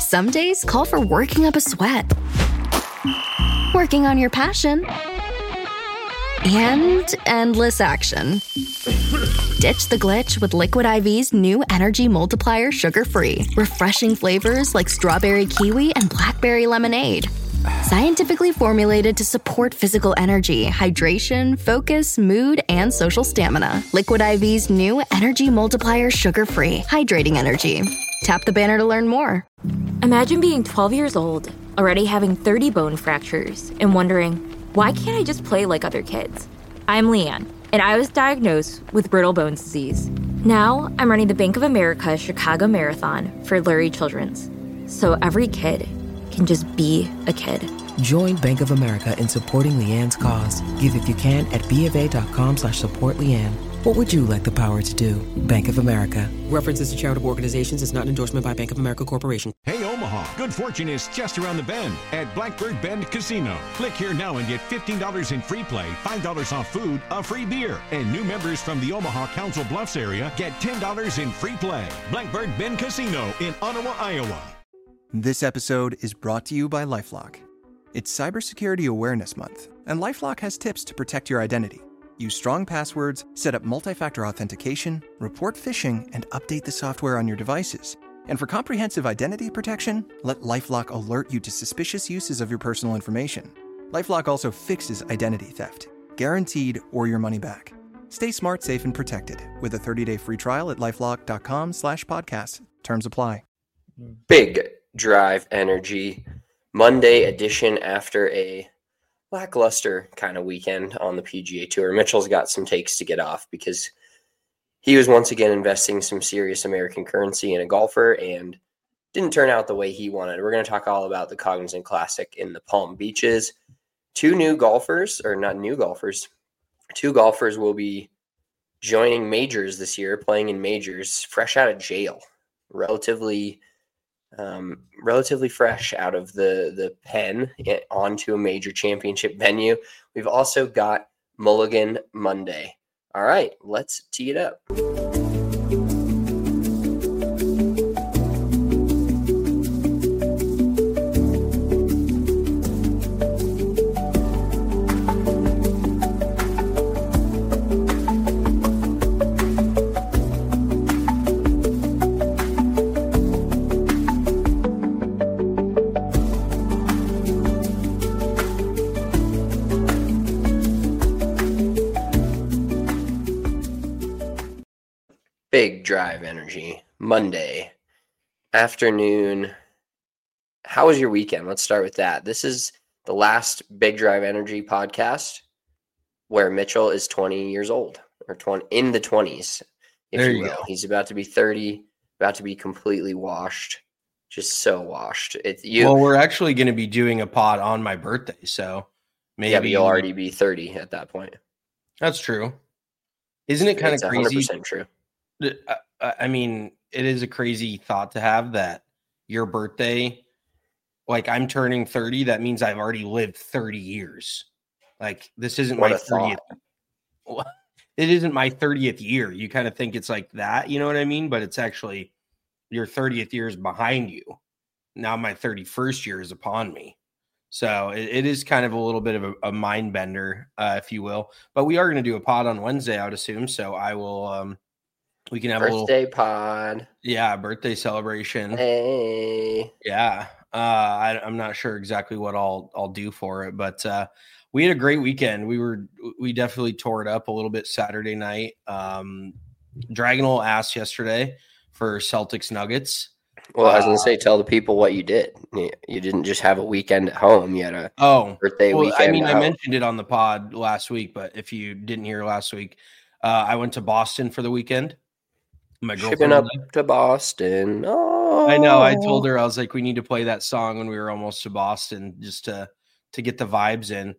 Some days call for working up a sweat, working on your passion, and endless action. Ditch the glitch with Liquid IV's new Energy Multiplier Sugar-Free. Refreshing flavors like strawberry kiwi and blackberry lemonade. Scientifically formulated to support physical energy, hydration, focus, mood, and social stamina. Liquid IV's new Energy Multiplier Sugar-Free. Hydrating energy. Tap the banner to learn more. Imagine being 12 years old, already having 30 bone fractures, and wondering, why can't I just play like other kids? I'm Leanne, and I was diagnosed with brittle bones disease. Now, I'm running the Bank of America Chicago Marathon for Lurie Children's, so every kid can just be a kid. Join Bank of America in supporting Leanne's cause. Give if you can at BofA.com/supportLeanne. What would you like the power to do? Bank of America. References to charitable organizations is not an endorsement by Bank of America Corporation. Hey, Omaha, good fortune is just around the bend at Blackbird Bend Casino. Click here now and get $15 in free play, $5 off food, a free beer. And new members from the Omaha Council Bluffs area get $10 in free play. Blackbird Bend Casino in Ottawa, Iowa. This episode is brought to you by LifeLock. It's Cybersecurity Awareness Month, and LifeLock has tips to protect your identity. Use strong passwords, set up multi-factor authentication, report phishing, and update the software on your devices. And for comprehensive identity protection, let LifeLock alert you to suspicious uses of your personal information. LifeLock also fixes identity theft, guaranteed or your money back. Stay smart, safe, and protected with a 30-day free trial at LifeLock.com/podcast. Terms apply. Big Drive Energy Monday edition after a lackluster kind of weekend on the PGA Tour. Mitchell's got some takes to get off because he was once again investing some serious American currency in a golfer and didn't turn out the way he wanted. We're going to talk all about the Cognizant Classic in the Palm Beaches. Two golfers will be joining majors this year, playing in majors, fresh out of jail, relatively fresh out of the pen onto a major championship venue. We've also got Mulligan Monday. All right, let's tee it up. Big Drive Energy Monday afternoon. How was your weekend? Let's start with that. This is the last Big Drive Energy podcast where Mitchell is 20 years old, or 20 in the 20s, if you will. Go. He's about to be 30, about to be completely washed, just so washed. Well, we're actually going to be doing a pod on my birthday, so maybe but you'll already be 30 at that point. That's true. Isn't it kind of crazy? 100% true. I mean, it is a crazy thought to have that your birthday, like I'm turning 30. That means I've already lived 30 years. Like this isn't my 30th. It isn't my 30th year. You kind of think it's like that, you know what I mean? But it's actually your 30th year is behind you. Now my 31st year is upon me. So it is kind of a little bit of a mind bender, if you will. But we are going to do a pod on Wednesday, I would assume. So I will. We can have birthday a little pod. Yeah, birthday celebration. Hey. Yeah. I'm not sure exactly what I'll do for it, but we had a great weekend. We definitely tore it up a little bit Saturday night. Dragging a little ass yesterday for Celtics Nuggets. Well, I was going to say, tell the people what you did. You didn't just have a weekend at home. You had a birthday weekend. I mean, I mentioned it on the pod last week, but if you didn't hear last week, I went to Boston for the weekend. My girlfriend shipping up to Boston. Oh, I know. I told her, I was like, we need to play that song when we were almost to Boston just to get the vibes in.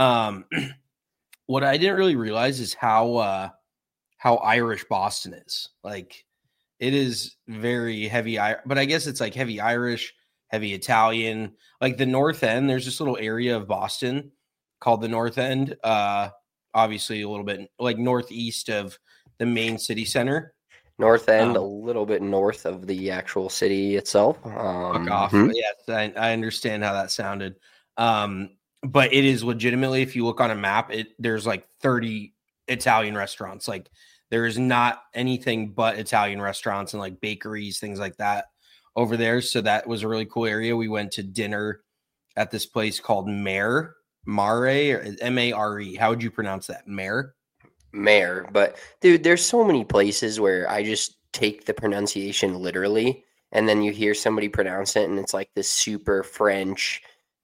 What I didn't really realize is how Irish Boston is. Like, it is very heavy, but I guess it's like heavy Irish, heavy Italian. Like the North End, there's this little area of Boston called the North End. Obviously, a little bit like northeast of the main city center. North End, a little bit north of the actual city itself. Fuck off. Yes, I understand how that sounded. But it is legitimately, if you look on a map, there's like 30 Italian restaurants. Like there is not anything but Italian restaurants and like bakeries, things like that over there. So that was a really cool area. We went to dinner at this place called Mare, or M-A-R-E. How would you pronounce that? Mare? But dude, there's so many places where I just take the pronunciation literally, and then you hear somebody pronounce it and it's like this super French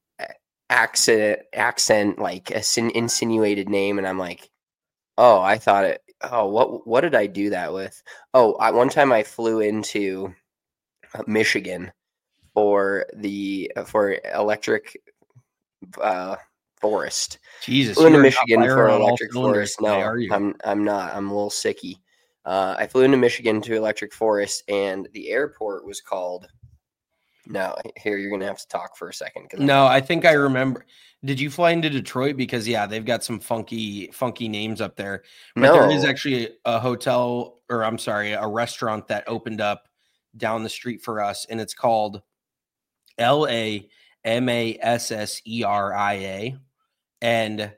accent like insinuated name, and I'm like, oh, I thought it. Oh, what did I do that with? Oh, one time I flew into Michigan for electric forest. Jesus, flew into Michigan for electric forest. No, I'm not. I'm a little sicky. I flew into Michigan to electric forest, and the airport was called. No, here you're gonna have to talk for a second. No, I think I remember. Did you fly into Detroit? Because they've got some funky names up there. But there is actually a hotel, or I'm sorry, a restaurant that opened up down the street for us, and it's called LAMASSERIA. And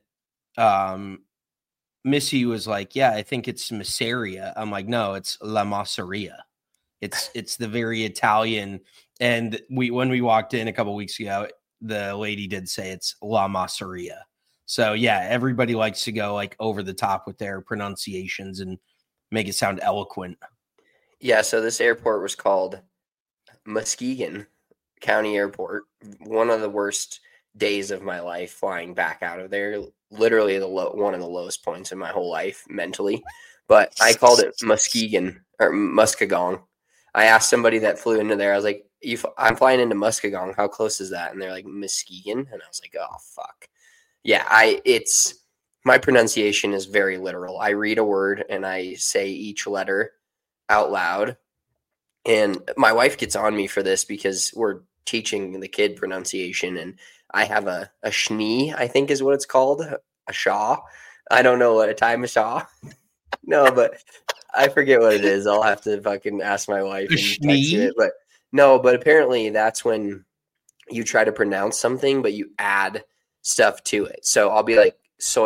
Missy was like, yeah, I think it's Masseria. I'm like, no, it's La Masseria. It's the very Italian. And when we walked in a couple weeks ago, the lady did say it's La Masseria. So yeah, everybody likes to go like over the top with their pronunciations and make it sound eloquent. Yeah, so this airport was called Muskegon County Airport. One of the worst days of my life flying back out of there. Literally one of the lowest points in my whole life mentally. But I called it Muskegon or Muskegon. I asked somebody that flew into there. I was like, I'm flying into Muskegon. How close is that? And they're like, Muskegon. And I was like, oh, fuck. Yeah, my pronunciation is very literal. I read a word and I say each letter out loud. And my wife gets on me for this because we're teaching the kid pronunciation. And I have a schnee, I think is what it's called. A shaw. I don't know what a time a shaw. No, but I forget what it is. I'll have to fucking ask my wife and text it. But no, but apparently that's when you try to pronounce something, but you add stuff to it. So I'll be like,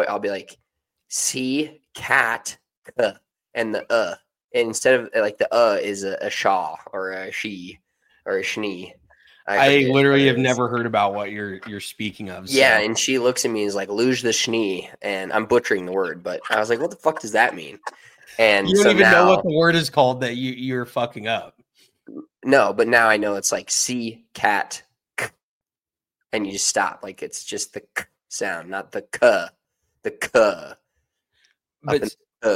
see, cat, and the and instead of like the is a shaw or a she or a schnee. I literally have never heard about what you're speaking of. So. Yeah, and she looks at me and is like, luge the schnee, and I'm butchering the word, but I was like, what the fuck does that mean? And you don't even know what the word is called that you're fucking up. No, but now I know it's like C, cat, k, and you just stop. Like it's just the k sound, not the k, the k. But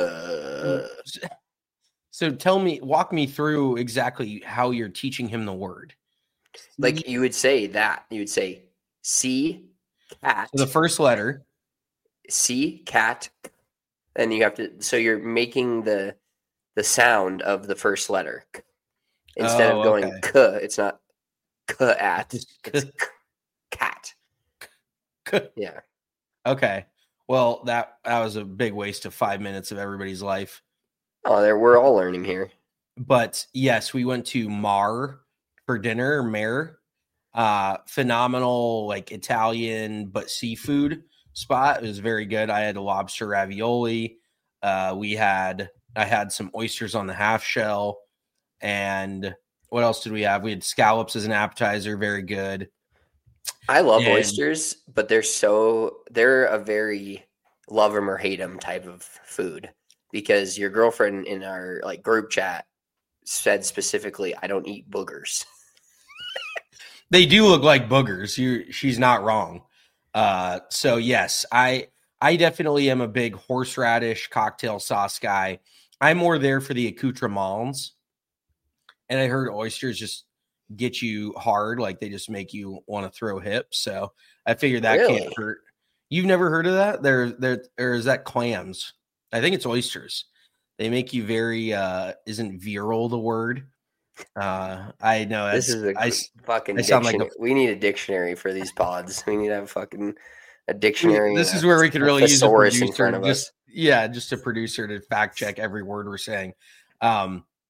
so walk me through exactly how you're teaching him the word. Like you would say that. You would say C, cat. So the first letter. C, cat. And you have to, so you're making the sound of the first letter. Instead of going k, it's not k-at, it's cat. Yeah. Okay. Well, that was a big waste of 5 minutes of everybody's life. Oh, we're all learning here. But yes, we went to Mare for dinner, Mare. Phenomenal, like Italian, but seafood spot. It was very good. I had a lobster ravioli. I had some oysters on the half shell. And what else did we have? We had scallops as an appetizer. Very good. I love oysters, but they're a very love them or hate them type of food, because your girlfriend in our like group chat said specifically, I don't eat boogers. They do look like boogers. She's not wrong. So yes, I definitely am a big horseradish cocktail sauce guy. I'm more there for the accoutrements. And I heard oysters just get you hard, like they just make you want to throw hips. So I figured that can't hurt. You've never heard of that? Or is that clams? I think it's oysters. They make you very isn't virile the word? I know this is fucking dictionary. We need a dictionary for these pods. We need to have a dictionary. This is where we could really use a producer in front of us. Yeah, just a producer to fact check every word we're saying.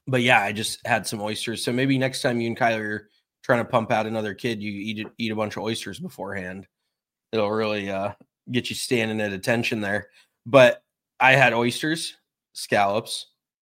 But yeah, I just had some oysters. So maybe next time you and Kyler are trying to pump out another kid, you eat a bunch of oysters beforehand. It'll really get you standing at attention there. But I had oysters, scallops,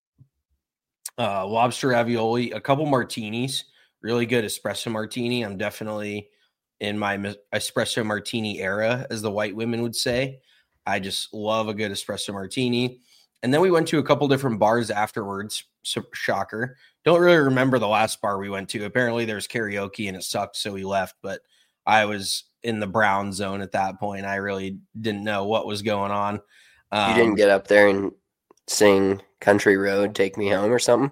lobster ravioli, a couple martinis, really good espresso martini. I'm definitely in my espresso martini era, as the white women would say. I just love a good espresso martini. And then we went to a couple different bars afterwards. So, shocker. Don't really remember the last bar we went to. Apparently there's karaoke and it sucked, so we left. But I was in the brown zone at that point. I really didn't know what was going on. You didn't get up there and sing Country Road, Take Me Home or something?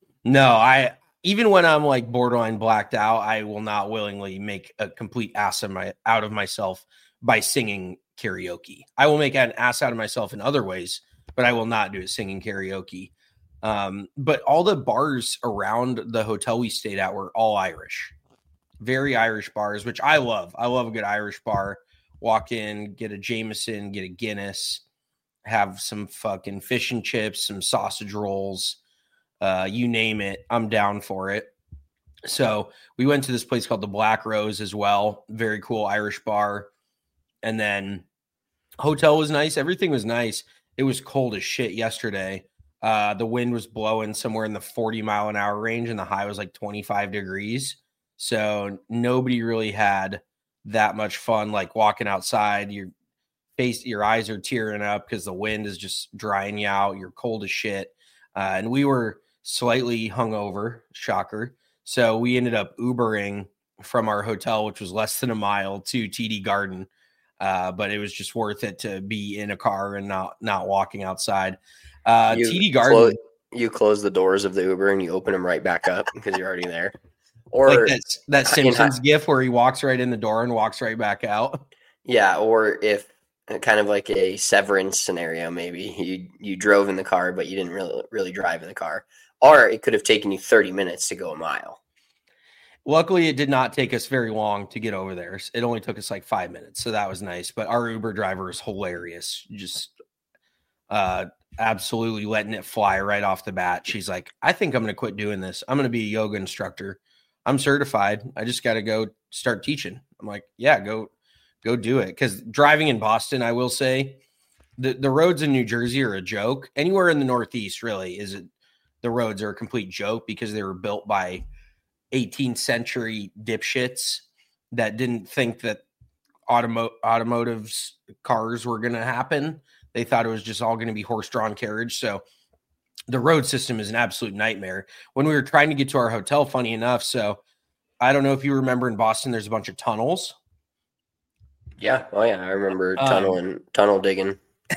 No, even when I'm like borderline blacked out, I will not willingly make a complete ass out of myself by singing karaoke. I will make an ass out of myself in other ways, but I will not do it singing karaoke. But all the bars around the hotel we stayed at were all Irish, very Irish bars, which I love. I love a good Irish bar. Walk in, get a Jameson, get a Guinness, have some fucking fish and chips, some sausage rolls, you name it. I'm down for it. So we went to this place called the Black Rose as well. Very cool Irish bar. And then hotel was nice. Everything was nice. It was cold as shit yesterday. The wind was blowing somewhere in the 40-mile-an-hour range, and the high was like 25 degrees. So nobody really had that much fun, like walking outside. Your eyes are tearing up because the wind is just drying you out. You're cold as shit. And we were slightly hungover, shocker. So we ended up Ubering from our hotel, which was less than a mile, to TD Garden. But it was just worth it to be in a car and not walking outside. TD Garden. You close the doors of the Uber and you open them right back up because you're already there. Or like that Simpsons gif where he walks right in the door and walks right back out. Yeah, or if kind of like a Severance scenario, maybe you drove in the car, but you didn't really drive in the car. Or it could have taken you 30 minutes to go a mile. Luckily, it did not take us very long to get over there. It only took us like 5 minutes, so that was nice. But our Uber driver is hilarious. Just absolutely letting it fly right off the bat. She's like, I think I'm going to quit doing this. I'm going to be a yoga instructor. I'm certified. I just got to go start teaching. I'm like, yeah, go do it. Because driving in Boston, I will say, the roads in New Jersey are a joke. Anywhere in the Northeast, really, the roads are a complete joke because they were built by 18th century dipshits that didn't think that automotive cars were going to happen. They thought it was just all going to be horse-drawn carriage. So the road system is an absolute nightmare. When we were trying to get to our hotel, funny enough, so I don't know if you remember in Boston, there's a bunch of tunnels. Yeah. Oh, yeah. I remember tunnel digging.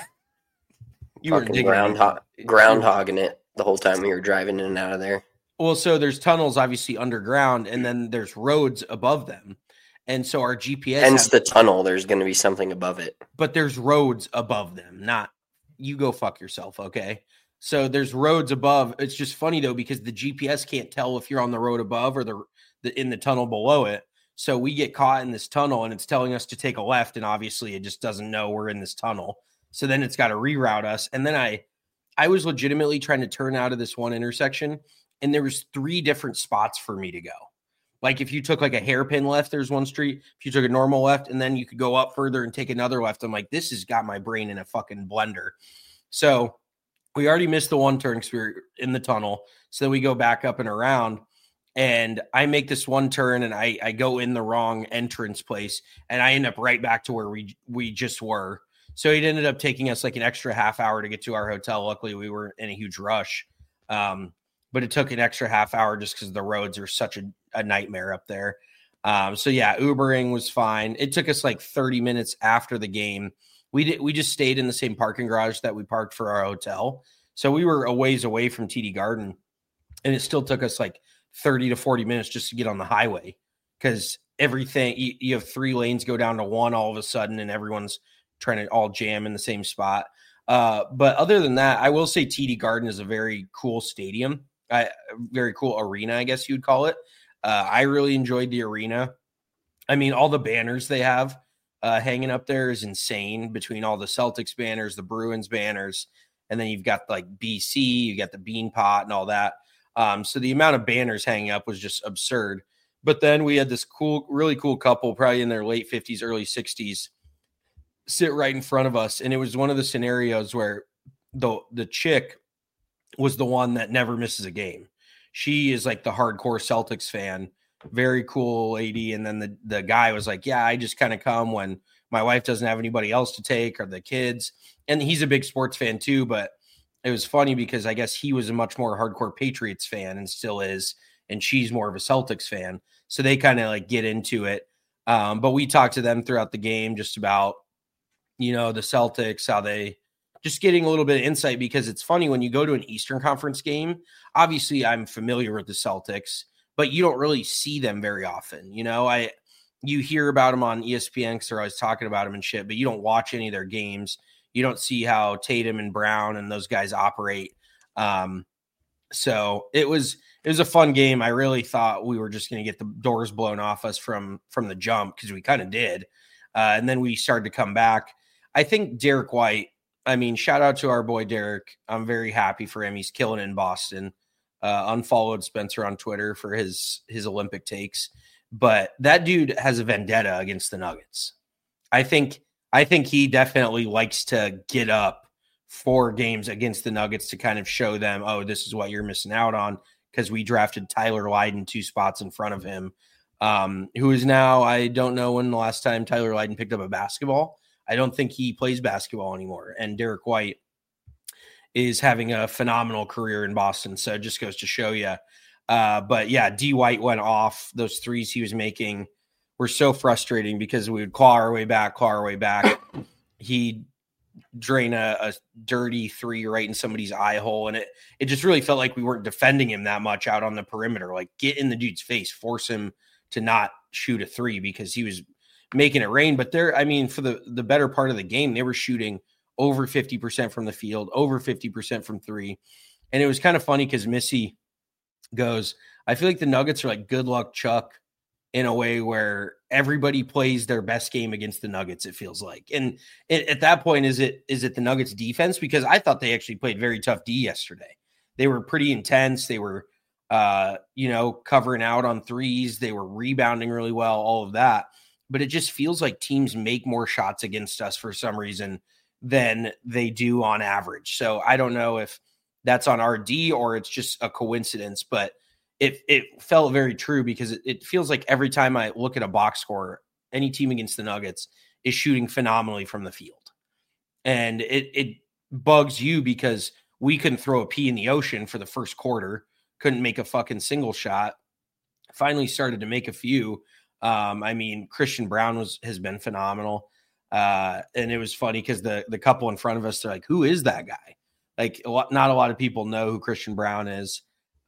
You were digging groundhogging it the whole time we were driving in and out of there. Well, so there's tunnels obviously underground, and then there's roads above them. And so our GPS... Hence the tunnel, there's going to be something above it. But there's roads above them, not... You go fuck yourself, okay? So there's roads above. It's just funny, though, because the GPS can't tell if you're on the road above or in the tunnel below it. So we get caught in this tunnel, and it's telling us to take a left, and obviously it just doesn't know we're in this tunnel. So then it's got to reroute us. And then I was legitimately trying to turn out of this one intersection, and there was 3 different spots for me to go. Like if you took like a hairpin left, there's one street. If you took a normal left, and then you could go up further and take another left. I'm like, this has got my brain in a fucking blender. So we already missed the one turn because we were in the tunnel. So then we go back up and around, and I make this one turn, and I go in the wrong entrance place, and I end up right back to where we just were. So it ended up taking us like an extra half hour to get to our hotel. Luckily, we were in a huge rush. But it took an extra half hour just because the roads are such a nightmare up there. So yeah, Ubering was fine. It took us like 30 minutes after the game. We just stayed in the same parking garage that we parked for our hotel. So we were a ways away from TD Garden, and it still took us like 30 to 40 minutes just to get on the highway because everything, you have 3 lanes go down to 1 all of a sudden, and everyone's trying to all jam in the same spot. But other than that, I will say TD Garden is a very cool stadium. Very cool arena, I guess you'd call it. I really enjoyed the arena. I mean, all the banners they have hanging up there is insane between all the Celtics banners, the Bruins banners, and then you've got like BC, you got the Bean Pot and all that. So the amount of banners hanging up was just absurd. But then we had this really cool couple, probably in their late 50s, early 60s, sit right in front of us. And it was one of the scenarios where the chick was the one that never misses a game. She is like the hardcore Celtics fan, very cool lady. And then the guy was like, yeah, I just kind of come when my wife doesn't have anybody else to take or the kids. And he's a big sports fan too, but it was funny because I guess he was a much more hardcore Patriots fan and still is. And she's more of a Celtics fan. So they kind of like get into it. But we talked to them throughout the game just about, the Celtics, how they just getting a little bit of insight, because it's funny when you go to an Eastern Conference game, obviously I'm familiar with the Celtics, but you don't really see them very often. You hear about them on ESPN because they're always talking about them and shit, but you don't watch any of their games. You don't see how Tatum and Brown and those guys operate. So it was a fun game. I really thought we were just going to get the doors blown off us from the jump, because we kind of did. And then we started to come back. I think Derek White, shout out to our boy Derek. I'm very happy for him. He's killing it in Boston. Unfollowed Spencer on Twitter for his Olympic takes. But that dude has a vendetta against the Nuggets. I think he definitely likes to get up 4 games against the Nuggets to kind of show them, oh, this is what you're missing out on, because we drafted Tyler Lydon 2 spots in front of him, who is now, I don't know when the last time Tyler Lydon picked up a basketball. I don't think he plays basketball anymore. And Derek White is having a phenomenal career in Boston. So it just goes to show you. But yeah, D White went off. Those threes he was making were so frustrating because we would claw our way back. He'd drain a dirty 3 right in somebody's eye hole. And it just really felt like we weren't defending him that much out on the perimeter. Like, get in the dude's face, force him to not shoot a 3, because he was making it rain. But for the better part of the game, they were shooting over 50% from the field, over 50% from 3. And it was kind of funny because Missy goes, I feel like the Nuggets are like Good Luck Chuck in a way where everybody plays their best game against the Nuggets, it feels like. And at that point, is it the Nuggets defense? Because I thought they actually played very tough D yesterday. They were pretty intense. They were, covering out on threes. They were rebounding really well, all of that. But it just feels like teams make more shots against us for some reason than they do on average. So I don't know if that's on our D or it's just a coincidence, but it felt very true, because it feels like every time I look at a box score, any team against the Nuggets is shooting phenomenally from the field. And it bugs you because we couldn't throw a pea in the ocean for the first quarter, couldn't make a fucking single shot, finally started to make a few. Christian Brown has been phenomenal. And it was funny because the couple in front of us, they're like, who is that guy? Like, not a lot of people know who Christian Brown is.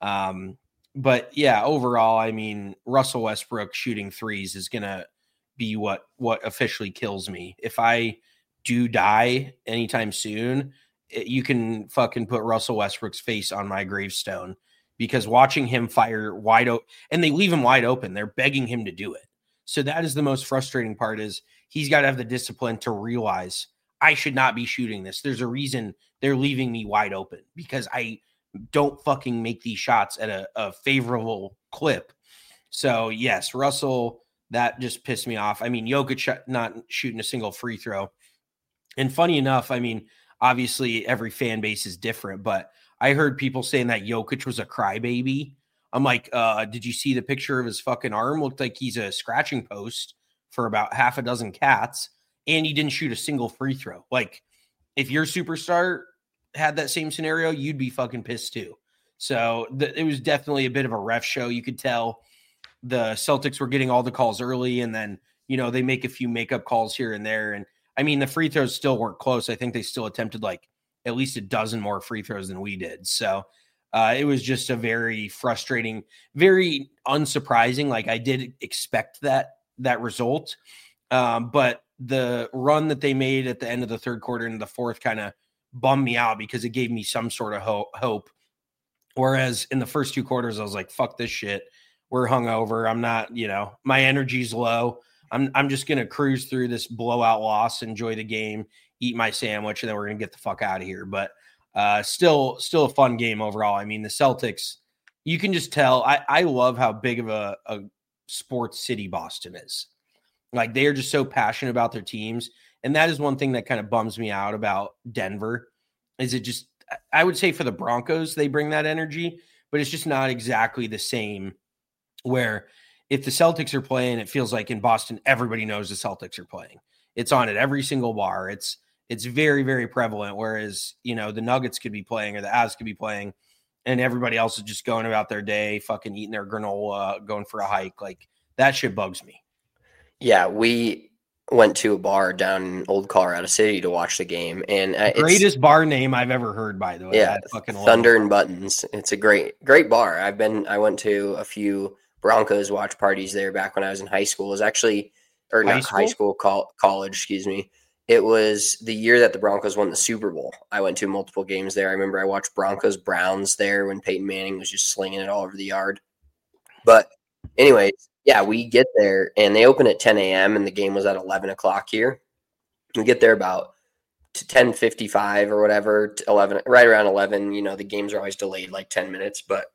But yeah, overall, Russell Westbrook shooting threes is going to be what officially kills me. If I do die anytime soon, you can fucking put Russell Westbrook's face on my gravestone, because watching him fire wide open, and they leave him wide open, they're begging him to do it. So that is the most frustrating part, is he's got to have the discipline to realize, I should not be shooting this. There's a reason they're leaving me wide open, because I don't fucking make these shots at a favorable clip. So yes, Russell, that just pissed me off. Jokic not shooting a single free throw. And funny enough, obviously every fan base is different, but I heard people saying that Jokic was a crybaby. I'm like, did you see the picture of his fucking arm? Looked like he's a scratching post for about half a dozen cats, and he didn't shoot a single free throw. Like, if your superstar had that same scenario, you'd be fucking pissed too. So it was definitely a bit of a ref show. You could tell the Celtics were getting all the calls early, and then, they make a few makeup calls here and there. And the free throws still weren't close. I think they still attempted like at least a dozen more free throws than we did. So it was just a very frustrating, very unsurprising. Like, I did expect that result. But the run that they made at the end of the third quarter into the fourth kind of bummed me out, because it gave me some sort of hope. Whereas in the first 2 quarters, I was like, fuck this shit. We're hungover. I'm not, my energy's low. I'm just going to cruise through this blowout loss, enjoy the game, eat my sandwich, and then we're going to get the fuck out of here. But still a fun game overall. The Celtics, you can just tell. I love how big of a sports city Boston is. Like, they are just so passionate about their teams. And that is one thing that kind of bums me out about Denver, is it just, I would say for the Broncos, they bring that energy, but it's just not exactly the same, where if the Celtics are playing, it feels like in Boston, everybody knows the Celtics are playing. It's on at every single bar. It's very, very prevalent. Whereas, the Nuggets could be playing or the Avs could be playing, and everybody else is just going about their day, fucking eating their granola, going for a hike. Like, that shit bugs me. Yeah, we went to a bar down in Old Colorado City to watch the game, and greatest bar name I've ever heard, by the way. Yeah, Thunder and Buttons. It's a great bar. I went to a few Broncos watch parties there back when I was in high school. It was actually, or not high school, college, excuse me. It was the year that the Broncos won the Super Bowl. I went to multiple games there. I remember I watched Broncos Browns there when Peyton Manning was just slinging it all over the yard. But anyways, yeah, we get there and they open at 10 a.m. and the game was at 11 o'clock here. We get there about 10:55 or whatever, 11, right around 11. The games are always delayed like 10 minutes, but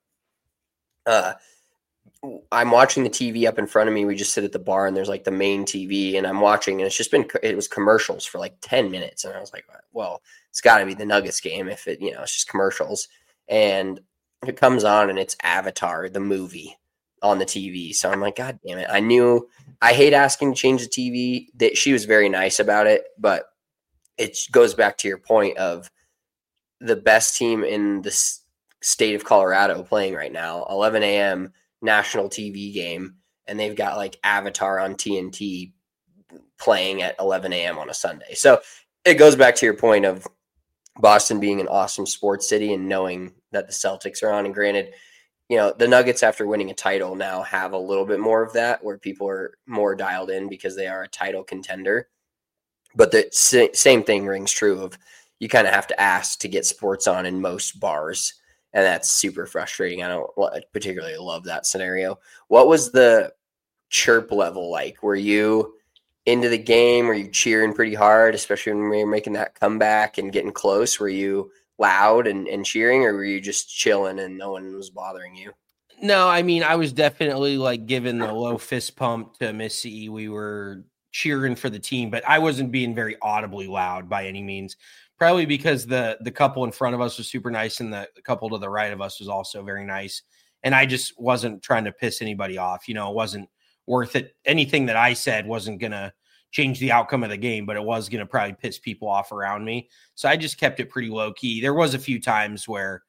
I'm watching the TV up in front of me. We just sit at the bar and there's like the main TV and I'm watching, and it was commercials for like 10 minutes. And I was like, well, it's got to be the Nuggets game if it's just commercials. And it comes on and it's Avatar, the movie, on the TV. So I'm like, God damn it. I hate asking to change the TV. That she was very nice about it, but it goes back to your point of the best team in the state of Colorado playing right now, 11 a.m. national TV game, and they've got like Avatar on TNT playing at 11 a.m. on a Sunday. So it goes back to your point of Boston being an awesome sports city and knowing that the Celtics are on. And granted, the Nuggets, after winning a title, now have a little bit more of that, where people are more dialed in because they are a title contender. But the same thing rings true of you kind of have to ask to get sports on in most bars. And that's super frustrating. I don't particularly love that scenario. What was the chirp level like? Were you into the game? Were you cheering pretty hard, especially when we were making that comeback and getting close? Were you loud and cheering, or were you just chilling and no one was bothering you? No, I mean, I was definitely like giving the low fist pump to Missy. We were cheering for the team, but I wasn't being very audibly loud by any means. Probably because the couple in front of us was super nice and the couple to the right of us was also very nice. And I just wasn't trying to piss anybody off. It wasn't worth it. Anything that I said wasn't going to change the outcome of the game, but it was going to probably piss people off around me. So I just kept it pretty low key. There was a few times where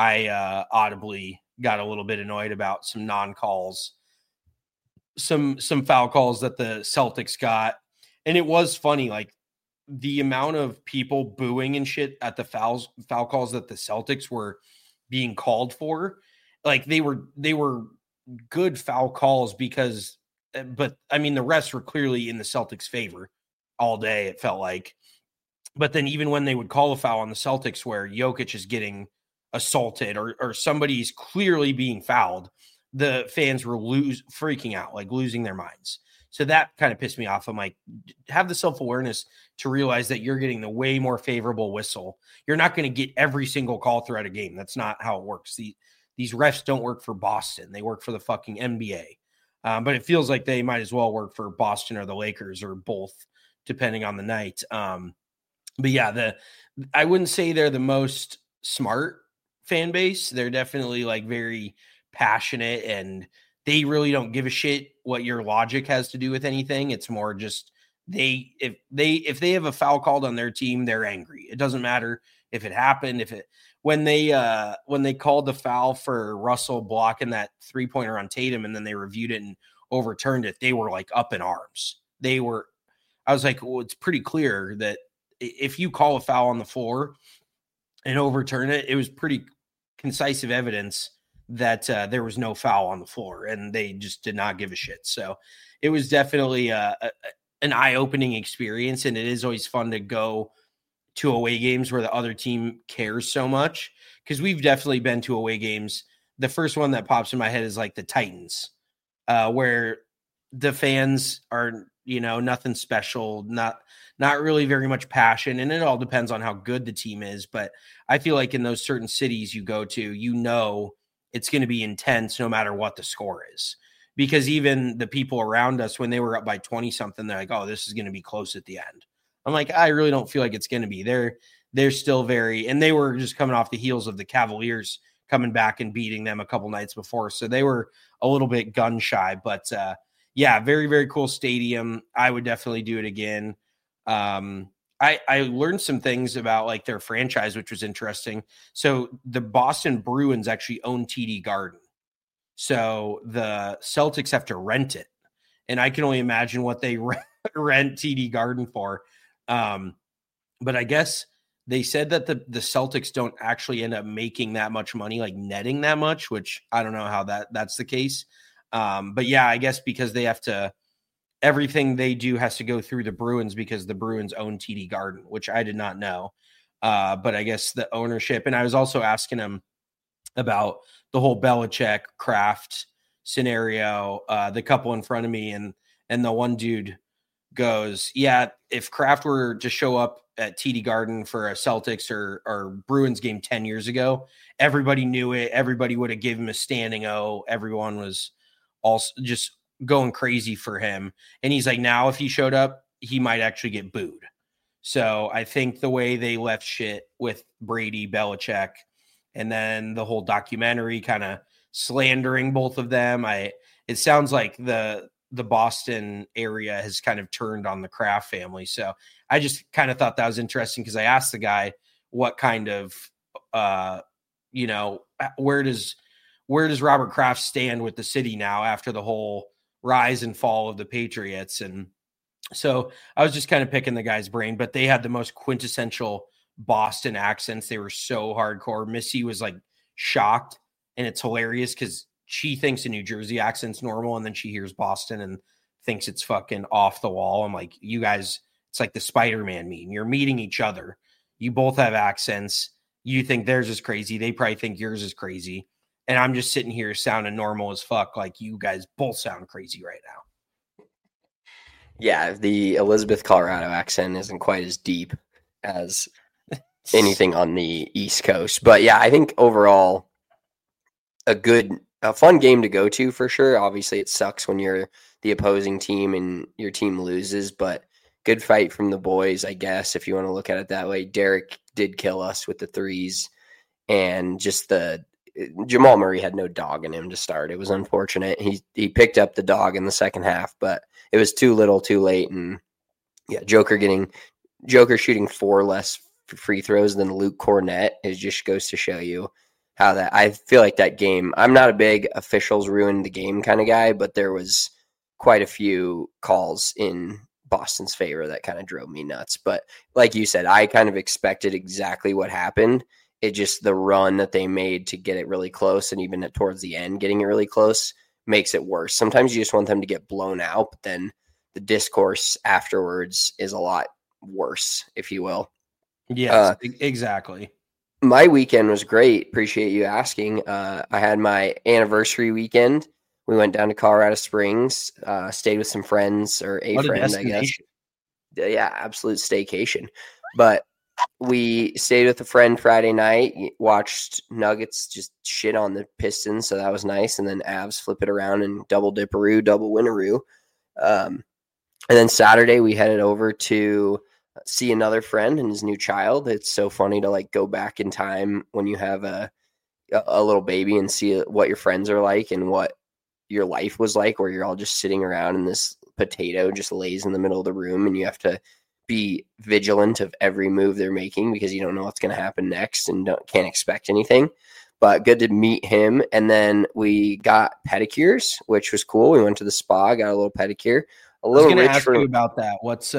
I audibly got a little bit annoyed about some non-calls, some foul calls that the Celtics got. And it was funny, like the amount of people booing and shit at the foul calls that the Celtics were being called for. Like they were good foul calls but I mean, the refs were clearly in the Celtics' favor all day, it felt like. But then even when they would call a foul on the Celtics where Jokic is getting assaulted or somebody's clearly being fouled, the fans were freaking out, like losing their minds. So that kind of pissed me off. I'm like, have the self-awareness to realize that you're getting the way more favorable whistle. You're not going to get every single call throughout a game. That's not how it works. These refs don't work for Boston. They work for the fucking NBA. But it feels like they might as well work for Boston or the Lakers or both, depending on the night. But yeah, I wouldn't say they're the most smart fan base. They're definitely like very passionate and they really don't give a shit what your logic has to do with anything. It's more just if they have a foul called on their team, they're angry. It doesn't matter if it happened, when they called the foul for Russell blocking that 3-pointer on Tatum and then they reviewed it and overturned it, they were like up in arms. I was like, well, it's pretty clear that if you call a foul on the floor and overturn it, it was pretty concise evidence that there was no foul on the floor and they just did not give a shit. So it was definitely an eye-opening experience. And it is always fun to go to away games where the other team cares so much, because we've definitely been to away games. The first one that pops in my head is like the Titans, where the fans are, nothing special, not really very much passion. And it all depends on how good the team is. But I feel like in those certain cities you go to, it's going to be intense no matter what the score is. Because even the people around us, when they were up by 20 something, they're like, oh, this is going to be close at the end. I'm like, I really don't feel like it's going to be. They're still very, and they were just coming off the heels of the Cavaliers coming back and beating them a couple nights before. So they were a little bit gun shy, but yeah, very, very cool stadium. I would definitely do it again. I learned some things about like their franchise, which was interesting. So the Boston Bruins actually own TD Garden. So the Celtics have to rent it. And I can only imagine what they rent TD Garden for. But I guess they said that the Celtics don't actually end up making that much money, like netting that much, which I don't know how that's the case. But yeah, I guess because they have to, everything they do has to go through the Bruins because the Bruins own TD Garden, which I did not know. But I guess the ownership, and I was also asking him about the whole Belichick Kraft scenario, the couple in front of me, and the one dude goes, yeah, if Kraft were to show up at TD Garden for a Celtics or Bruins game 10 years ago, everybody knew it. Everybody would have given him a standing O. Everyone was also just going crazy for him. And he's like, now if he showed up, he might actually get booed. So I think the way they left shit with Brady, Belichick, and then the whole documentary kind of slandering both of them, it sounds like the Boston area has kind of turned on the Kraft family. So I just kind of thought that was interesting because I asked the guy what kind of, where does Robert Kraft stand with the city now after the whole rise and fall of the Patriots? And so I was just kind of picking the guy's brain, but they had the most quintessential Boston accents. They were so hardcore. Missy was like shocked, and it's hilarious because she thinks a New Jersey accent's normal, and then she hears Boston and thinks it's fucking off the wall. I'm like, you guys, it's like the Spider-Man meme. You're meeting each other. You both have accents. You think theirs is crazy. They probably think yours is crazy. And I'm just sitting here sounding normal as fuck. Like you guys both sound crazy right now. Yeah, the Elizabeth, Colorado accent isn't quite as deep as anything on the East Coast. But yeah, I think overall a fun game to go to for sure. Obviously, it sucks when you're the opposing team and your team loses, but good fight from the boys, I guess, if you want to look at it that way. Derek did kill us with the threes, and just Jamal Murray had no dog in him to start. It was unfortunate. He picked up the dog in the second half, but it was too little, too late. And yeah, Joker shooting 4 less free throws than Luke Cornett. It just goes to show you how that, I feel like that game, I'm not a big officials ruined the game kind of guy, but there was quite a few calls in Boston's favor that kind of drove me nuts. But like you said, I kind of expected exactly what happened. It just, the run that they made to get it really close, and even towards the end getting it really close, makes it worse. Sometimes you just want them to get blown out, but then the discourse afterwards is a lot worse, if you will. Yes, exactly. My weekend was great. Appreciate you asking. I had my anniversary weekend. We went down to Colorado Springs, stayed with some friends, or a friend, I guess. Yeah, absolute staycation. But we stayed with a friend Friday night, watched Nuggets just shit on the Pistons, so that was nice. And then Avs flip it around and double dipperoo, double winneroo. And then Saturday we headed over to see another friend and his new child. It's so funny to like go back in time when you have a little baby and see what your friends are like and what your life was like, where you're all just sitting around and this potato just lays in the middle of the room and you have to be vigilant of every move they're making because you don't know what's going to happen next and can't expect anything. But good to meet him. And then we got pedicures, which was cool. We went to the spa, got a little pedicure. A little I was going to ask you about that. What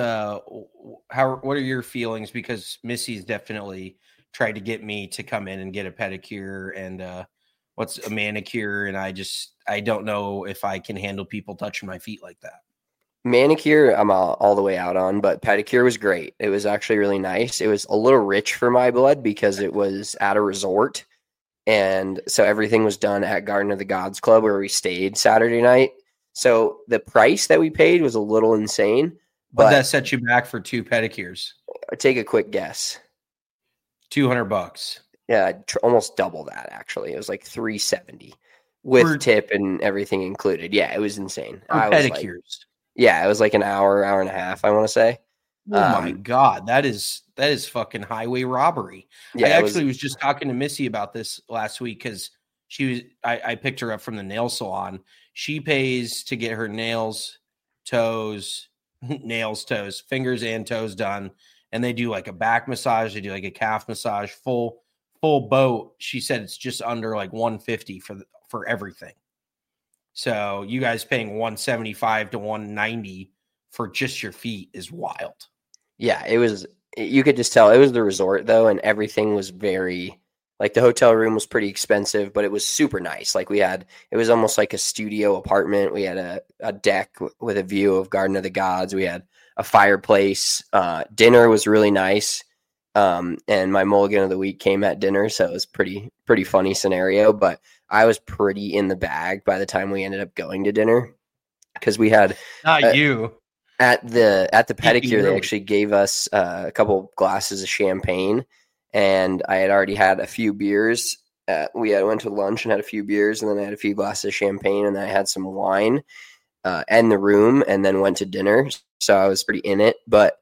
are your feelings? Because Missy's definitely tried to get me to come in and get a pedicure and what's a manicure, and I don't know if I can handle people touching my feet like that. Manicure, I'm all the way out on, but pedicure was great. It was actually really nice. It was a little rich for my blood because it was at a resort. And so everything was done at Garden of the Gods Club where we stayed Saturday night. So the price that we paid was a little insane. But that set you back for 2 pedicures? Take a quick guess. $200. Yeah, almost double that, actually. It was like $370 with tip and everything included. Yeah, it was insane. Pedicures. It was like an hour and a half, I want to say. Oh my God, that is fucking highway robbery. Yeah, I actually was just talking to Missy about this last week because I picked her up from the nail salon. She pays to get her nails, toes, fingers and toes done. And they do like a back massage. They do like a calf massage, full boat. She said it's just under like $150 for everything. So you guys paying $175 to $190 for just your feet is wild. Yeah, you could just tell it was the resort though. And everything was very, like the hotel room was pretty expensive, but it was super nice. Like it was almost like a studio apartment. We had a deck with a view of Garden of the Gods. We had a fireplace. Dinner was really nice. And my mulligan of the week came at dinner. So it was pretty funny scenario, but I was pretty in the bag by the time we ended up going to dinner. Cause we had you at the pedicure, they actually gave us a couple glasses of champagne, and I had already had a few beers. We went to lunch and had a few beers, and then I had a few glasses of champagne, and then I had some wine in the room, and then went to dinner. So I was pretty in it, but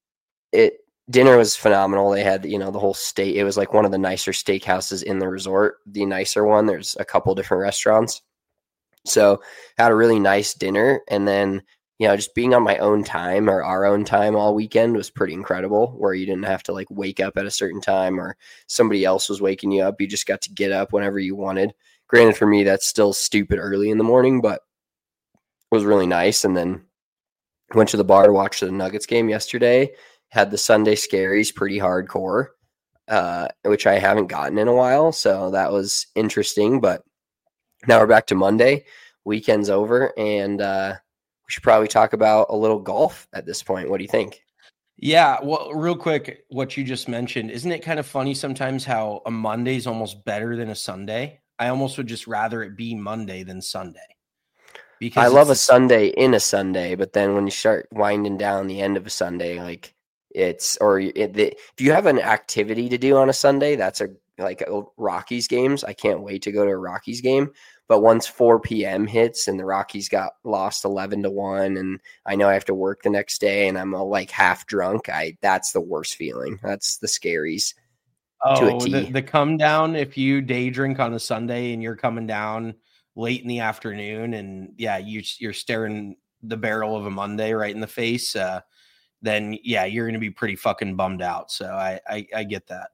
dinner was phenomenal. They had, the whole steak. It was like one of the nicer steakhouses in the resort, the nicer one. There's a couple different restaurants. So had a really nice dinner. And then, just being on my own time or our own time all weekend was pretty incredible, where you didn't have to like wake up at a certain time or somebody else was waking you up. You just got to get up whenever you wanted. Granted, for me, that's still stupid early in the morning, but it was really nice. And then went to the bar to watch the Nuggets game yesterday. Had the Sunday Scaries pretty hardcore, which I haven't gotten in a while. So that was interesting. But now we're back to Monday. Weekend's over, and we should probably talk about a little golf at this point. What do you think? Yeah, well, real quick, what you just mentioned, isn't it kind of funny sometimes how a Monday is almost better than a Sunday? I almost would just rather it be Monday than Sunday. Because I love a Sunday in a Sunday, but then when you start winding down the end of a Sunday, like if you have an activity to do on a Sunday, that's like Rockies games. I can't wait to go to a Rockies game. But once 4 p.m. hits and the Rockies got lost 11-1, and I know I have to work the next day and I'm like half drunk, that's the worst feeling. That's the Scaries. Oh, the come down if you day drink on a Sunday and you're coming down late in the afternoon and you're staring the barrel of a Monday right in the face, then you're going to be pretty fucking bummed out. So I get that.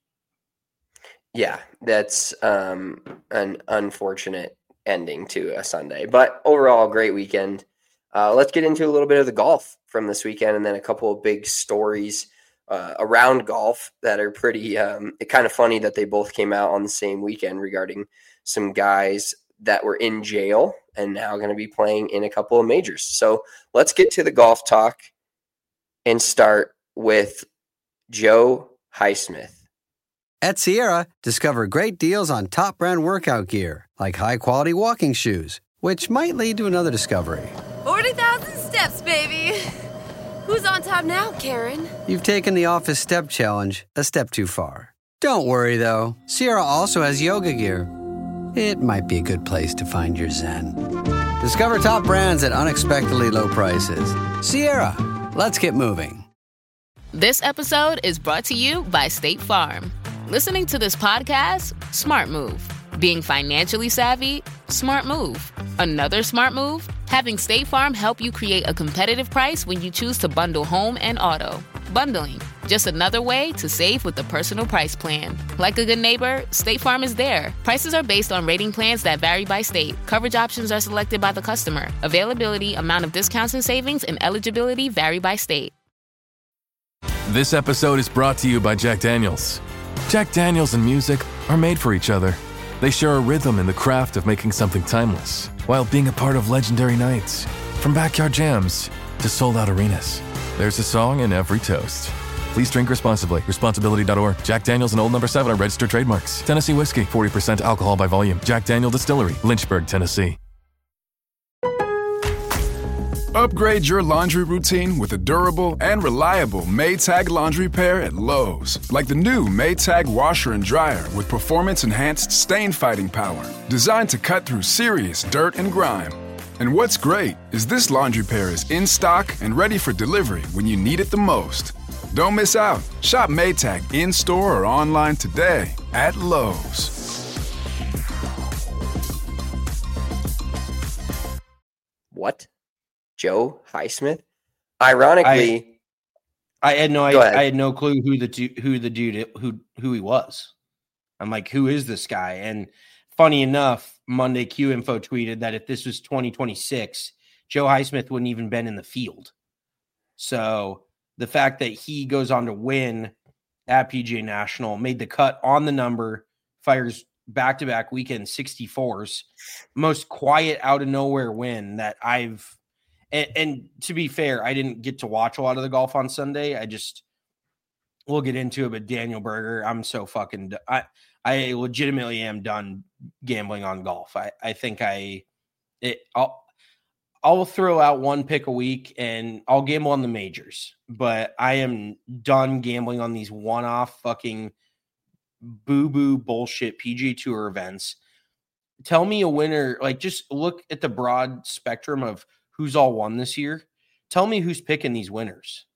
Yeah, that's an unfortunate ending to a Sunday, but overall, great weekend. Let's get into a little bit of the golf from this weekend, and then a couple of big stories around golf that are pretty kind of funny that they both came out on the same weekend regarding some guys that were in jail and now going to be playing in a couple of majors. So let's get to the golf talk and start with Joe Highsmith. At Sierra, discover great deals on top brand workout gear, like high-quality walking shoes, which might lead to another discovery. 40,000 steps, baby. Who's on top now, Karen? You've taken the office step challenge a step too far. Don't worry, though. Sierra also has yoga gear. It might be a good place to find your zen. Discover top brands at unexpectedly low prices. Sierra, let's get moving. This episode is brought to you by State Farm. Listening to this podcast? Smart move. Being financially savvy? Smart move. Another smart move? Having State Farm help you create a competitive price when you choose to bundle home and auto. Bundling, just another way to save with the Personal Price Plan. Like a good neighbor, State Farm is there. Prices are based on rating plans that vary by state. Coverage options are selected by the customer. Availability, amount of discounts and savings, and eligibility vary by state. This episode is brought to you by Jack Daniels. Jack Daniels and music are made for each other. They share a rhythm in the craft of making something timeless, while being a part of legendary nights. From backyard jams to sold-out arenas, there's a song in every toast. Please drink responsibly. Responsibility.org. Jack Daniels and Old No. 7 are registered trademarks. Tennessee whiskey, 40% alcohol by volume. Jack Daniel Distillery, Lynchburg, Tennessee. Upgrade your laundry routine with a durable and reliable Maytag laundry pair at Lowe's. Like the new Maytag washer and dryer with performance-enhanced stain-fighting power. Designed to cut through serious dirt and grime. And what's great is this laundry pair is in stock and ready for delivery when you need it the most. Don't miss out. Shop Maytag in-store or online today at Lowe's. What? Joe Highsmith? Ironically, I had no clue who he was. I'm like, who is this guy? And funny enough, Monday Q Info tweeted that if this was 2026, Joe Highsmith wouldn't even been in the field. So the fact that he goes on to win at PGA National, made the cut on the number, fires back-to-back weekend 64s, most quiet out of nowhere win that I've. And to be fair, I didn't get to watch a lot of the golf on Sunday. We'll get into it, but Daniel Berger, I'm so fucking. I legitimately am done gambling on golf. I think I'll throw out one pick a week and I'll gamble on the majors, but I am done gambling on these one-off fucking boo-boo bullshit PGA Tour events. Tell me a winner, like just look at the broad spectrum of who's all won this year. Tell me who's picking these winners.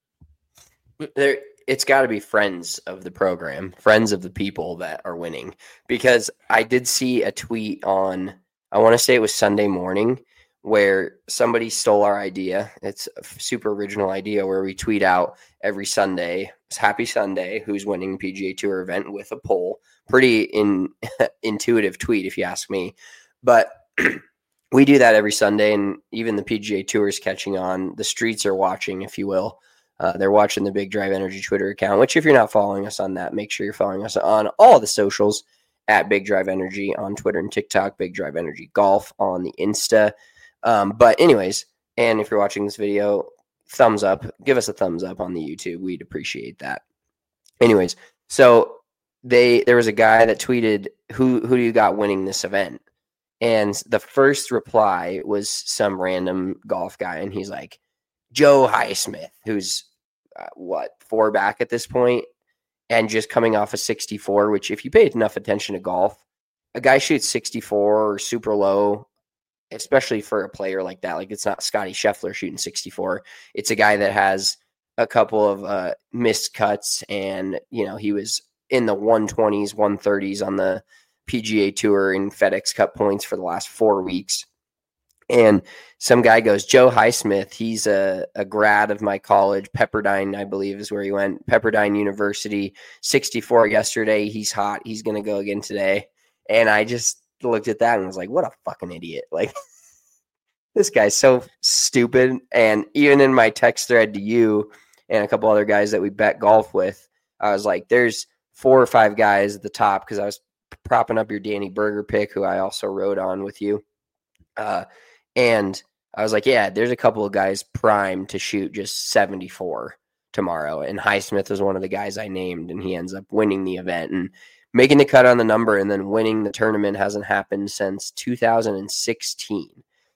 It's got to be friends of the program, friends of the people that are winning, because I did see a tweet on, I want to say it was Sunday morning, where somebody stole our idea. It's a super original idea where we tweet out every Sunday, happy Sunday, who's winning PGA Tour event with a poll. Pretty intuitive tweet, if you ask me. But we do that every Sunday, and even the PGA Tour is catching on. The streets are watching, if you will. They're watching the Big Drive Energy Twitter account, which if you're not following us on that, make sure you're following us on all the socials at Big Drive Energy on Twitter and TikTok, Big Drive Energy Golf on the Insta. But anyways, and if you're watching this video, thumbs up, give us a thumbs up on the YouTube. We'd appreciate that. Anyways, so there was a guy that tweeted, who do you got winning this event? And the first reply was some random golf guy. And he's like, Joe Highsmith, who's 4 back at this point and just coming off a 64, which if you pay enough attention to golf, a guy shoots 64 or super low, especially for a player like that. Like, it's not Scotty Scheffler shooting 64. It's a guy that has a couple of missed cuts, and, he was in the 120s, 130s on the PGA Tour in FedEx Cup points for the last 4 weeks. And some guy goes, Joe Highsmith, he's a grad of my college, Pepperdine, I believe is where he went, Pepperdine University, 64 yesterday. He's hot. He's going to go again today. And I just looked at that and was like, what a fucking idiot. Like, this guy's so stupid. And even in my text thread to you and a couple other guys that we bet golf with, I was like, there's 4 or 5 guys at the top, because I was propping up your Danny Berger pick, who I also rode on with you. And I was like, yeah, there's a couple of guys primed to shoot just 74 tomorrow. And Highsmith was one of the guys I named, and he ends up winning the event and making the cut on the number, and then winning the tournament hasn't happened since 2016.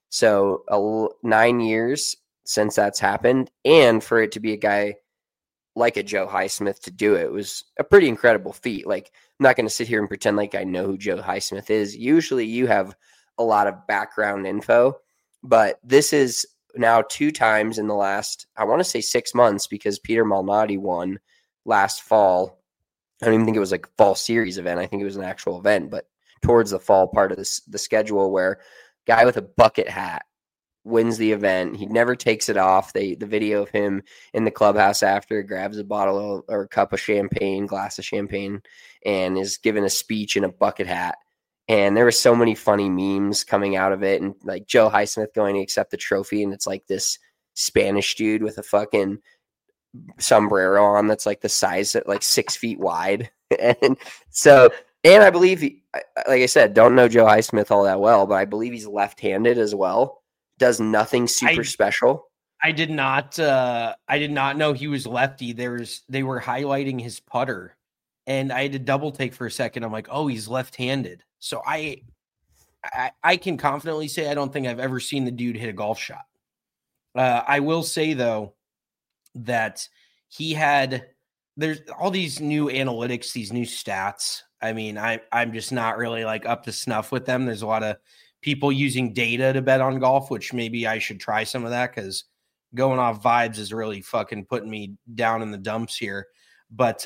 So 9 years since that's happened. And for it to be a guy like a Joe Highsmith to do it was a pretty incredible feat. Like, I'm not going to sit here and pretend like I know who Joe Highsmith is. Usually you have a lot of background info, but this is now 2 times in the last, I want to say 6 months, because Peter Malnati won last fall. I don't even think it was like a fall series event. I think it was an actual event, but towards the fall part of the schedule, where guy with a bucket hat wins the event. He never takes it off. The video of him in the clubhouse after grabs a bottle or a cup of champagne, glass of champagne, and is given a speech in a bucket hat. And there were so many funny memes coming out of it, and like Joe Highsmith going to accept the trophy, and it's like this Spanish dude with a fucking sombrero on that's like the size at like 6 feet wide. And I believe like I said, don't know Joe Highsmith all that well, but I believe he's left-handed as well. Does nothing super special. I did not know he was lefty. They were highlighting his putter, and I had to double take for a second. I'm like, oh, he's left-handed. So I can confidently say I don't think I've ever seen the dude hit a golf shot. I will say though that there's all these new analytics, these new stats. I mean, I'm just not really like up to snuff with them. There's a lot of people using data to bet on golf, which maybe I should try some of that, because going off vibes is really fucking putting me down in the dumps here. But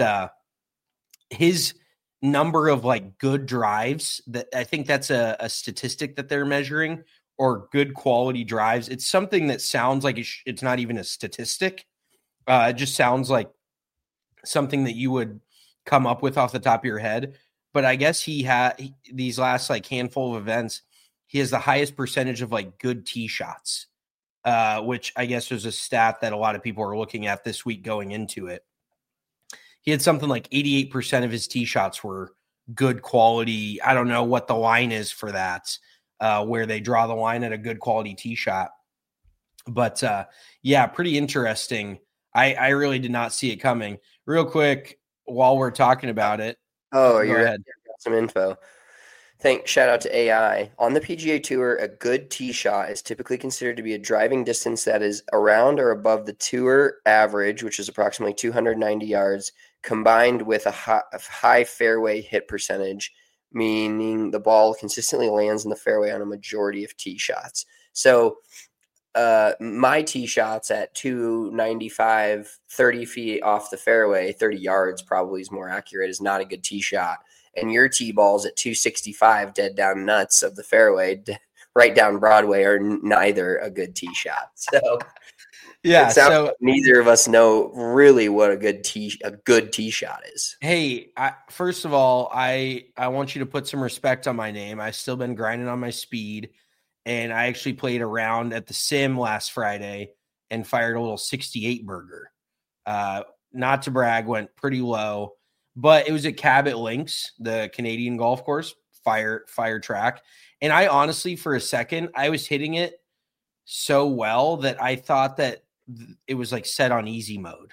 his number of like good drives, that I think that's a statistic that they're measuring, or good quality drives. It's something that sounds like it's not even a statistic. It just sounds like something that you would come up with off the top of your head. But I guess these last like handful of events, he has the highest percentage of like good tee shots, which I guess was a stat that a lot of people are looking at this week going into it. He had something like 88% of his tee shots were good quality. I don't know what the line is for that, where they draw the line at a good quality tee shot. But yeah, pretty interesting. I really did not see it coming. Real quick, while we're talking about it. Oh, you're got some info. Shout out to AI. On the PGA Tour, a good tee shot is typically considered to be a driving distance that is around or above the tour average, which is approximately 290 yards, combined with a high fairway hit percentage, meaning the ball consistently lands in the fairway on a majority of tee shots. So my tee shots at 295, 30 feet off the fairway, 30 yards probably is more accurate, is not a good tee shot. And your tee balls at 265 dead down nuts of the fairway, right down Broadway, are neither a good tee shot. So yeah, so like neither of us know really what a good tee shot is. Hey, first of all, I want you to put some respect on my name. I've still been grinding on my speed, and I actually played a round at the Sim last Friday and fired a little 68 burger. Not to brag, went pretty low. But it was at Cabot Links, the Canadian golf course, fire track. And I honestly, for a second, I was hitting it so well that I thought that it was like set on easy mode.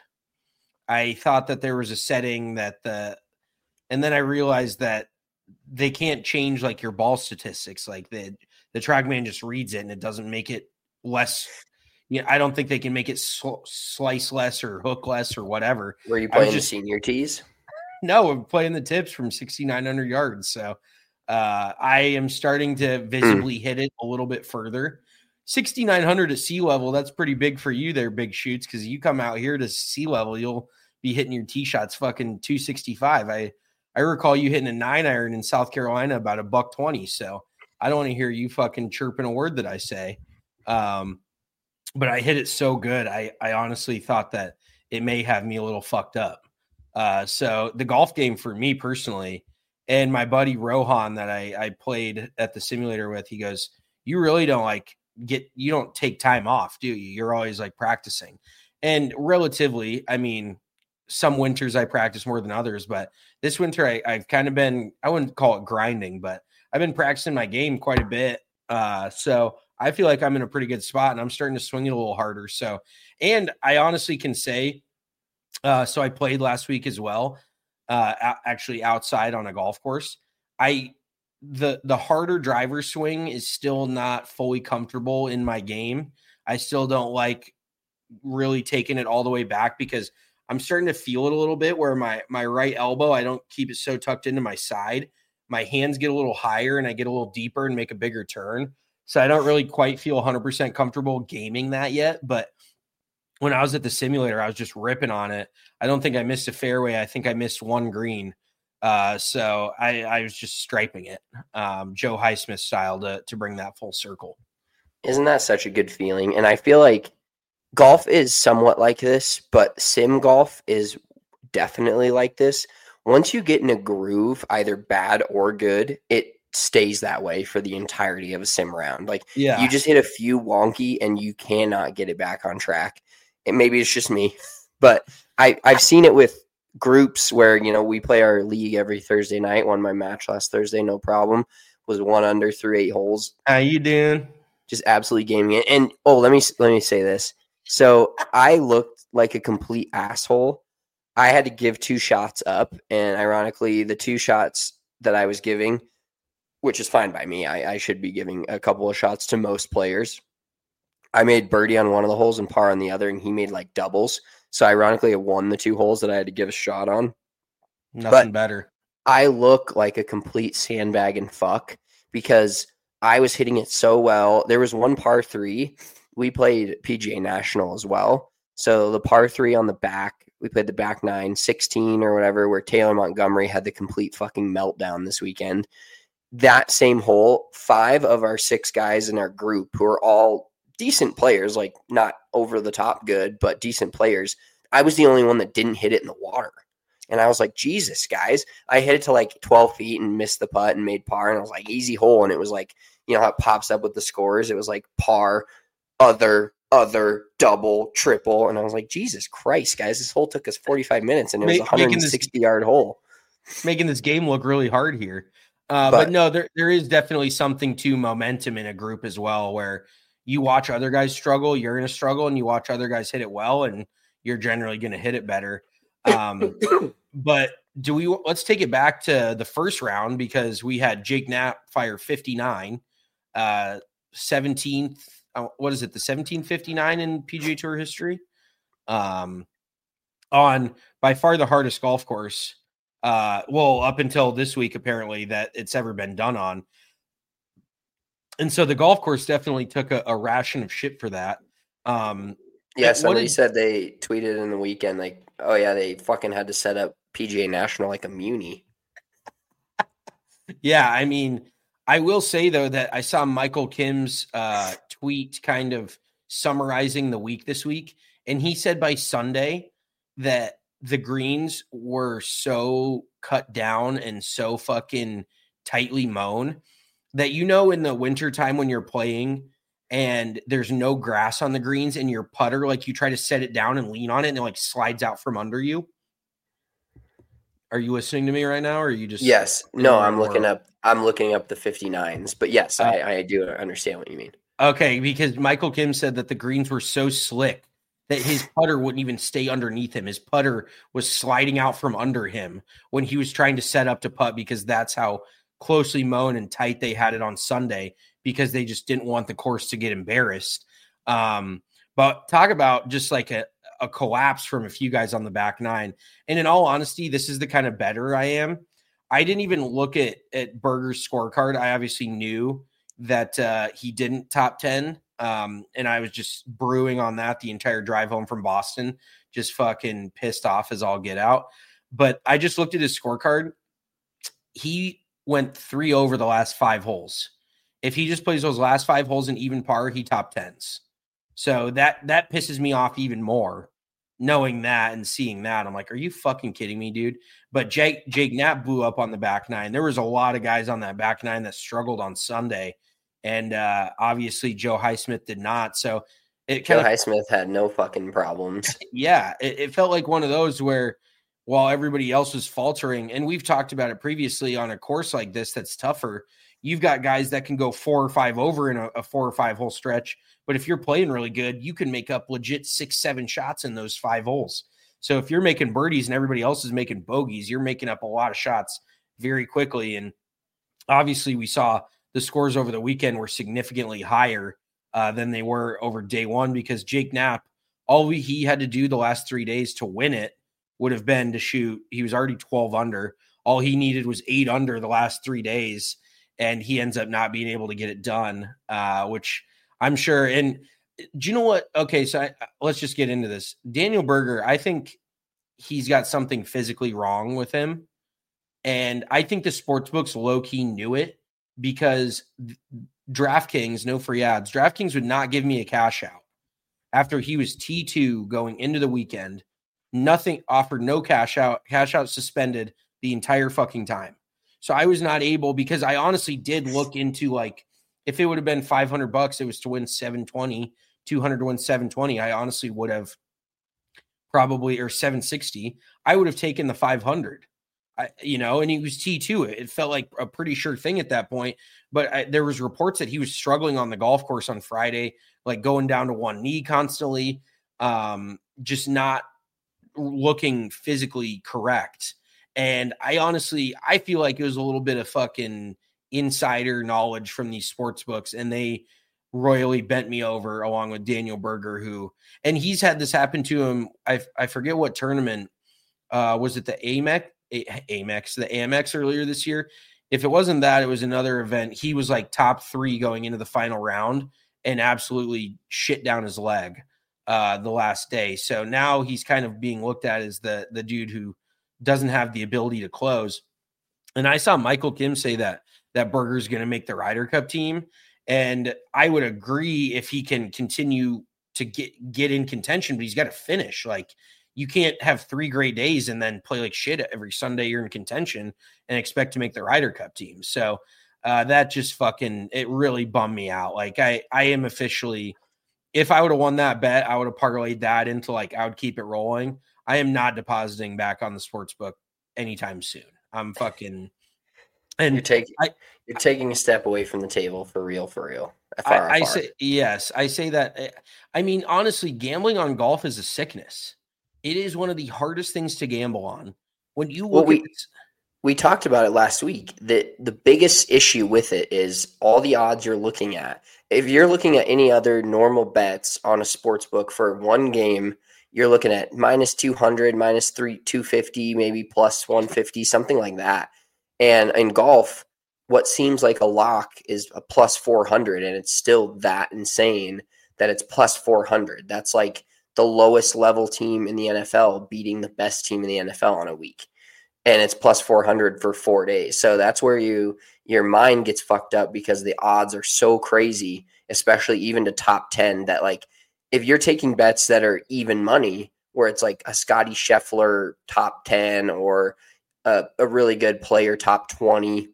I thought that there was a setting and then I realized that they can't change like your ball statistics. Like the TrackMan just reads it and it doesn't make it less. Yeah, I don't think they can make it slice less or hook less or whatever. Were you playing the senior tees? No, I'm playing the tips from 6,900 yards. So I am starting to visibly hit it a little bit further. 6,900 at sea level, that's pretty big for you there, Big Shoots, because you come out here to sea level, you'll be hitting your tee shots fucking 265. I recall you hitting a 9-iron in South Carolina about $120. So I don't want to hear you fucking chirping a word that I say. But I hit it so good, I honestly thought that it may have me a little fucked up. So the golf game for me personally, and my buddy Rohan that I played at the simulator with, he goes, you really don't you don't take time off, do you? You're always like practicing. And relatively, I mean, some winters I practice more than others, but this winter I've kind of been, I wouldn't call it grinding, but I've been practicing my game quite a bit. So I feel like I'm in a pretty good spot and I'm starting to swing it a little harder. So, and I honestly can say, so I played last week as well, actually outside on a golf course. The harder driver swing is still not fully comfortable in my game. I still don't like really taking it all the way back because I'm starting to feel it a little bit where my right elbow, I don't keep it so tucked into my side. My hands get a little higher and I get a little deeper and make a bigger turn. So I don't really quite feel 100% comfortable gaming that yet, but when I was at the simulator, I was just ripping on it. I don't think I missed a fairway. I think I missed one green. So I was just striping it, Joe Highsmith style to bring that full circle. Isn't that such a good feeling? And I feel like golf is somewhat like this, but sim golf is definitely like this. Once you get in a groove, either bad or good, it stays that way for the entirety of a sim round. Like you just hit a few wonky and you cannot get it back on track. And maybe it's just me, but I've seen it with groups where, we play our league every Thursday night. Won my match last Thursday, no problem. Was 1 under through 8 holes. How you doing? Just absolutely gaming it. And let me say this. So I looked like a complete asshole. I had to give 2 shots up, and ironically, the 2 shots that I was giving, which is fine by me, I should be giving a couple of shots to most players. I made birdie on one of the holes and par on the other, and he made like doubles. So ironically, I won the 2 holes that I had to give a shot on. Nothing better. I look like a complete sandbag and fuck because I was hitting it so well. There was one par 3. We played PGA National as well. So the par 3 on the back, we played the back 9, 16 or whatever, where Taylor Montgomery had the complete fucking meltdown this weekend. That same hole, 5 of our 6 guys in our group who are all decent players, like not over the top good, but decent players. I was the only one that didn't hit it in the water. And I was like, Jesus, guys. I hit it to like 12 feet and missed the putt and made par. And I was like, easy hole. And it was like, you know how it pops up with the scores? It was like par, other, double, triple. And I was like, Jesus Christ, guys. This hole took us 45 minutes and it was a 160-yard hole. Making this game look really hard here. But no, there is definitely something to momentum in a group as well, where you watch other guys struggle, you're going to struggle, and you watch other guys hit it well, and you're generally going to hit it better. But let's take it back to the first round, because we had Jake Knapp fire 59, 17th. What is it? The 1759 in PGA Tour history, on by far the hardest golf course. Up until this week, apparently, that it's ever been done on. And so the golf course definitely took a ration of shit for that. Yeah, somebody said they tweeted in the weekend, like, oh yeah, they fucking had to set up PGA National like a muni. Yeah, I mean, I will say, though, that I saw Michael Kim's tweet kind of summarizing the week this week, and he said by Sunday that the greens were so cut down and so fucking tightly mown that, you know, in the wintertime when you're playing and there's no grass on the greens and your putter, like you try to set it down and lean on it and it like slides out from under you. Are you listening to me right now? Or are you just, yes, no, I'm looking up the 59s, but yes, I do understand what you mean. Okay. Because Michael Kim said that the greens were so slick that his putter wouldn't even stay underneath him. His putter was sliding out from under him when he was trying to set up to putt, because that's how closely mown and tight they had it on Sunday, because they just didn't want the course to get embarrassed. But talk about just like a collapse from a few guys on the back 9. And in all honesty, this is the kind of better I am. I didn't even look at Berger's scorecard. I obviously knew that he didn't top 10. And I was just brewing on that the entire drive home from Boston, just fucking pissed off as all get out. But I just looked at his scorecard. He went 3 over the last 5 holes. If he just plays those last 5 holes in even par, he top 10s. So that pisses me off even more, knowing that and seeing that. I'm like, are you fucking kidding me, dude? But Jake Knapp blew up on the back 9. There was a lot of guys on that back 9 that struggled on Sunday. And obviously Joe Highsmith did not. So Joe Highsmith had no fucking problems. Yeah, it felt like one of those where while everybody else was faltering, and we've talked about it previously on a course like this that's tougher, you've got guys that can go 4 or 5 over in a 4 or 5 hole stretch. But if you're playing really good, you can make up legit 6-7 shots in those 5 holes. So if you're making birdies and everybody else is making bogeys, you're making up a lot of shots very quickly. And obviously we saw the scores over the weekend were significantly higher than they were over day one, because Jake Knapp, all he had to do the last 3 days to win it would have been to shoot. He was already 12 under. All he needed was 8 under the last 3 days, and he ends up not being able to get it done, which I'm sure. And do you know what? Okay, so let's just get into this. Daniel Berger, I think he's got something physically wrong with him. And I think the sportsbooks low-key knew it, because DraftKings, no free ads, DraftKings would not give me a cash out after he was T2 going into the weekend. Nothing offered, no cash out suspended the entire fucking time. So I was not able, because I honestly did look into, like, if it would have been $500, it was to win 720, 200 to win 720. I honestly would have probably, or 760, I would have taken the 500. And he was T2. It felt like a pretty sure thing at that point. But there was reports that he was struggling on the golf course on Friday, like going down to one knee constantly, just not looking physically correct. And I feel like it was a little bit of fucking insider knowledge from these sports books. And they royally bent me over, along with Daniel Berger, and he's had this happen to him. I forget what tournament, was it the AMEX earlier this year? If it wasn't that, it was another event. He was like top 3 going into the final round and absolutely shit down his leg the last day. So now he's kind of being looked at as the dude who doesn't have the ability to close. And I saw Michael Kim say that Berger's going to make the Ryder Cup team. And I would agree if he can continue to get in contention, but he's got to finish. Like, you can't have 3 great days and then play like shit every Sunday you're in contention and expect to make the Ryder Cup team. So that just it really bummed me out. Like, I am officially, if I would have won that bet, I would have parlayed that into like, I would keep it rolling. I am not depositing back on the sports book anytime soon. I'm fucking, and you're taking a step away from the table for real. I say, yes, I say that. I mean, honestly, gambling on golf is a sickness. It is one of the hardest things to gamble on. When you look we talked about it last week, that the biggest issue with it is all the odds you're looking at. If you're looking at any other normal bets on a sports book for one game, you're looking at minus 200, minus 250, maybe plus 150, something like that. And in golf, what seems like a lock is a plus 400, and it's still that insane that it's plus 400. That's like the lowest level team in the NFL beating the best team in the NFL on a week. And it's plus 400 for 4 days. So that's where your mind gets fucked up, because the odds are so crazy, especially even to top 10, that like if you're taking bets that are even money, where it's like a Scotty Scheffler top 10 or a really good player top 20,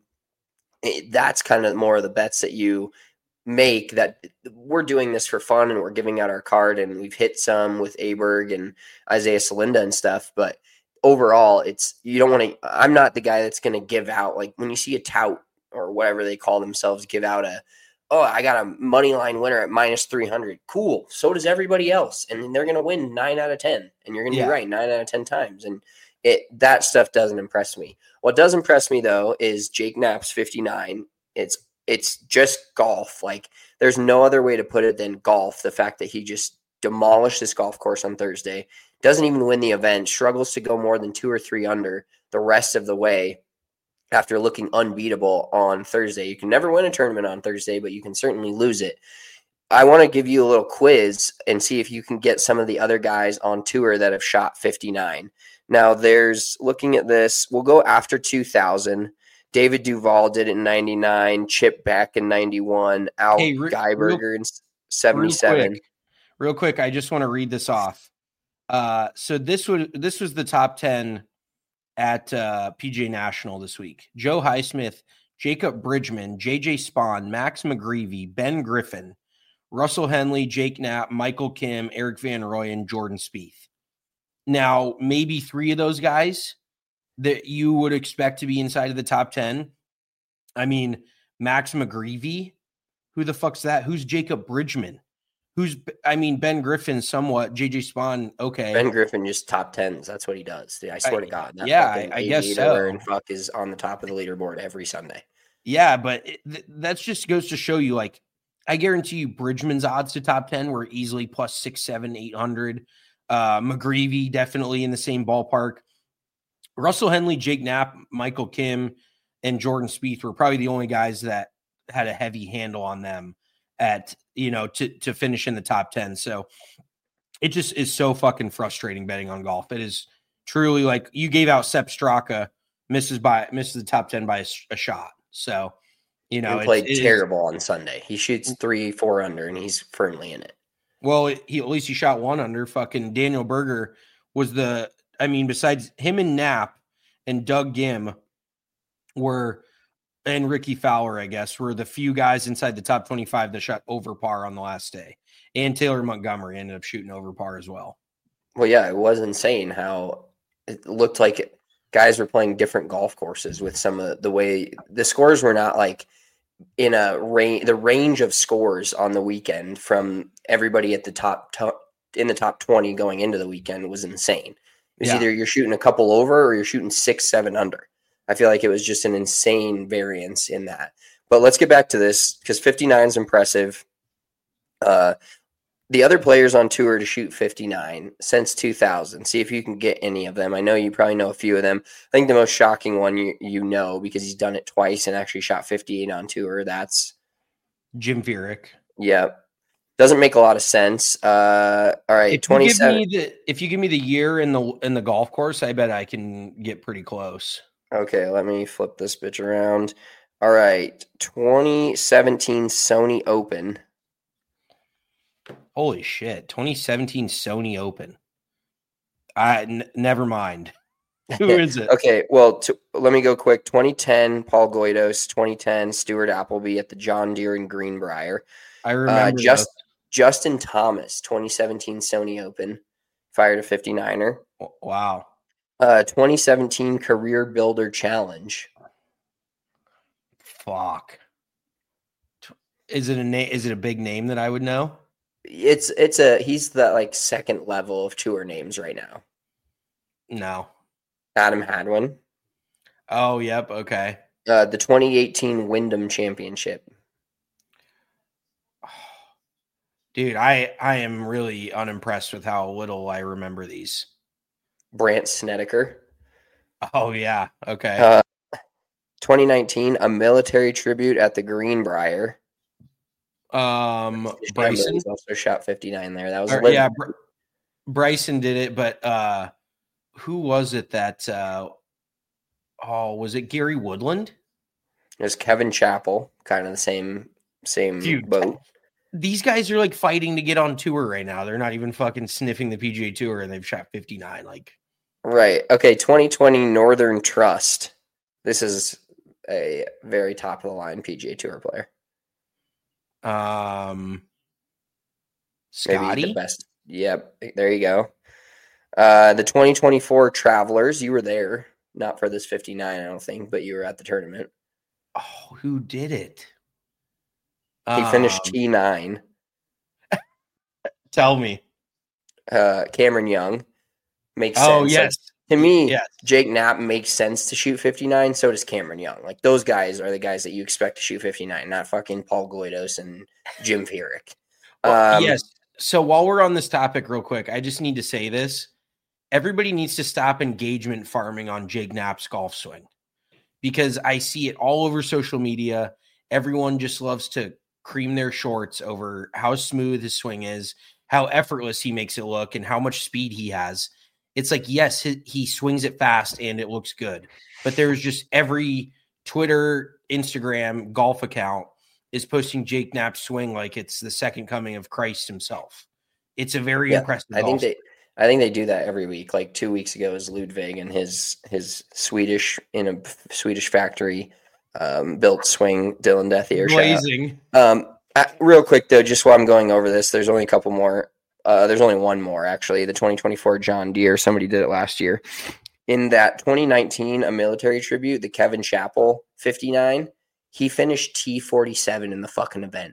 that's kind of more of the bets that you make. That we're doing this for fun and we're giving out our card, and we've hit some with Aberg and Isaiah Salinda and stuff, but overall, you don't want to. I'm not the guy that's going to give out, like when you see a tout or whatever they call themselves give out I got a money line winner at minus 300. Cool. So does everybody else, and they're going to win 9 out of 10, and you're going to be right 9 out of 10 times. And that stuff doesn't impress me. What does impress me though is Jake Knapp's 59. It's just golf. Like, there's no other way to put it than golf. The fact that he just demolished this golf course on Thursday, doesn't even win the event, struggles to go more than 2 or 3 under the rest of the way after looking unbeatable on Thursday. You can never win a tournament on Thursday, but you can certainly lose it. I want to give you a little quiz and see if you can get some of the other guys on tour that have shot 59. Now, looking at this, we'll go after 2000. David Duval did it in 99, Chip Beck in 91, Al Geiberger in 77. Real quick, I just want to read this off. So this was the top 10 at PGA National this week. Joe Highsmith, Jacob Bridgman, JJ Spahn, Max McGreevy, Ben Griffin, Russell Henley, Jake Knapp, Michael Kim, Eric Van Rooyen, and Jordan Spieth. Now, maybe 3 of those guys that you would expect to be inside of the top 10. I mean, Max McGreevy, who the fuck's that? Who's Jacob Bridgman? Ben Griffin somewhat, JJ Spahn, okay. Ben Griffin just top 10s. That's what he does. I swear to God. I guess so. And fuck is on the top of the leaderboard every Sunday. Yeah, but that just goes to show you, like, I guarantee you Bridgman's odds to top 10 were easily plus 6, 7, 800. McGreevy definitely in the same ballpark. Russell Henley, Jake Knapp, Michael Kim, and Jordan Spieth were probably the only guys that had a heavy handle on them at, to finish in the top 10. So it just is so fucking frustrating betting on golf. It is truly like you gave out Sepp Straka, misses the top 10 by a shot. So, he played terrible on Sunday. He shoots 3-4 under and he's firmly in it. Well, at least he shot 1 under. Fucking Daniel Berger was besides him and Knapp and Doug Gim and Ricky Fowler, I guess, were the few guys inside the top 25 that shot over par on the last day. And Taylor Montgomery ended up shooting over par as well. Well, yeah, it was insane how it looked like guys were playing different golf courses with some of the way the scores were not like in the range of scores on the weekend from everybody at the in the top 20 going into the weekend was insane. It was either you're shooting a couple over or you're shooting 6, 7 under. I feel like it was just an insane variance in that. But let's get back to this because 59 is impressive. The other players on tour to shoot 59 since 2000. See if you can get any of them. I know you probably know a few of them. I think the most shocking one you know, because he's done it twice and actually shot 58 on tour. That's Jim Furyk. Yeah. Doesn't make a lot of sense. All right, 27. If you give me the year in the golf course, I bet I can get pretty close. Okay, let me flip this bitch around. All right, 2017 Sony Open. Holy shit, 2017 Sony Open. Never mind. Who is it? Okay, well, let me go quick. 2010 Paul Goydos, 2010 Stuart Appleby at the John Deere in Greenbrier. I remember Justin Thomas, 2017 Sony Open, fired a 59er. Wow. 2017 Career Builder Challenge. Fuck. Is it a big name that I would know? He's the second level of tour names right now. No. Adam Hadwin. Oh, yep. Okay. The 2018 Wyndham Championship. Dude, I am really unimpressed with how little I remember these. Brandt Snedeker. Oh, yeah. Okay. 2019, a military tribute at the Greenbrier. Bryson also shot 59 there. That was Bryson did it, but who was it that was it Gary Woodland? It was Kevin Chappell, kind of the same boat. These guys are like fighting to get on tour right now. They're not even fucking sniffing the PGA Tour, and they've shot 59. Right. Okay. 2020 Northern Trust. This is a very top of the line PGA Tour player. Scotty. Maybe the best. Yep. There you go. The 2024 Travelers. You were there, not for this 59, I don't think, but you were at the tournament. Oh, who did it? He finished T9. Tell me. Cameron Young makes sense. Oh, yes. To me, yes. Jake Knapp makes sense to shoot 59. So does Cameron Young. Like, those guys are the guys that you expect to shoot 59, not fucking Paul Goydos and Jim Furyk. Yes. So while we're on this topic real quick, I just need to say this. Everybody needs to stop engagement farming on Jake Knapp's golf swing, because I see it all over social media. Everyone just loves to cream their shorts over how smooth his swing is, how effortless he makes it look, and how much speed he has. It's like, yes, he swings it fast and it looks good, but there's just every Twitter, Instagram, golf account is posting Jake Knapp's swing like it's the second coming of Christ himself. It's a very impressive. I think they do that every week. Like 2 weeks ago is Ludwig and his Swedish in a Swedish factory built swing, Dylan Dethier blazing. Real quick though, just while I'm going over this, there's only a couple more. There's only one more actually. The 2024 John Deere. Somebody did it last year. In that 2019, a military tribute, the Kevin Chappell 59. He finished T47 in the fucking event.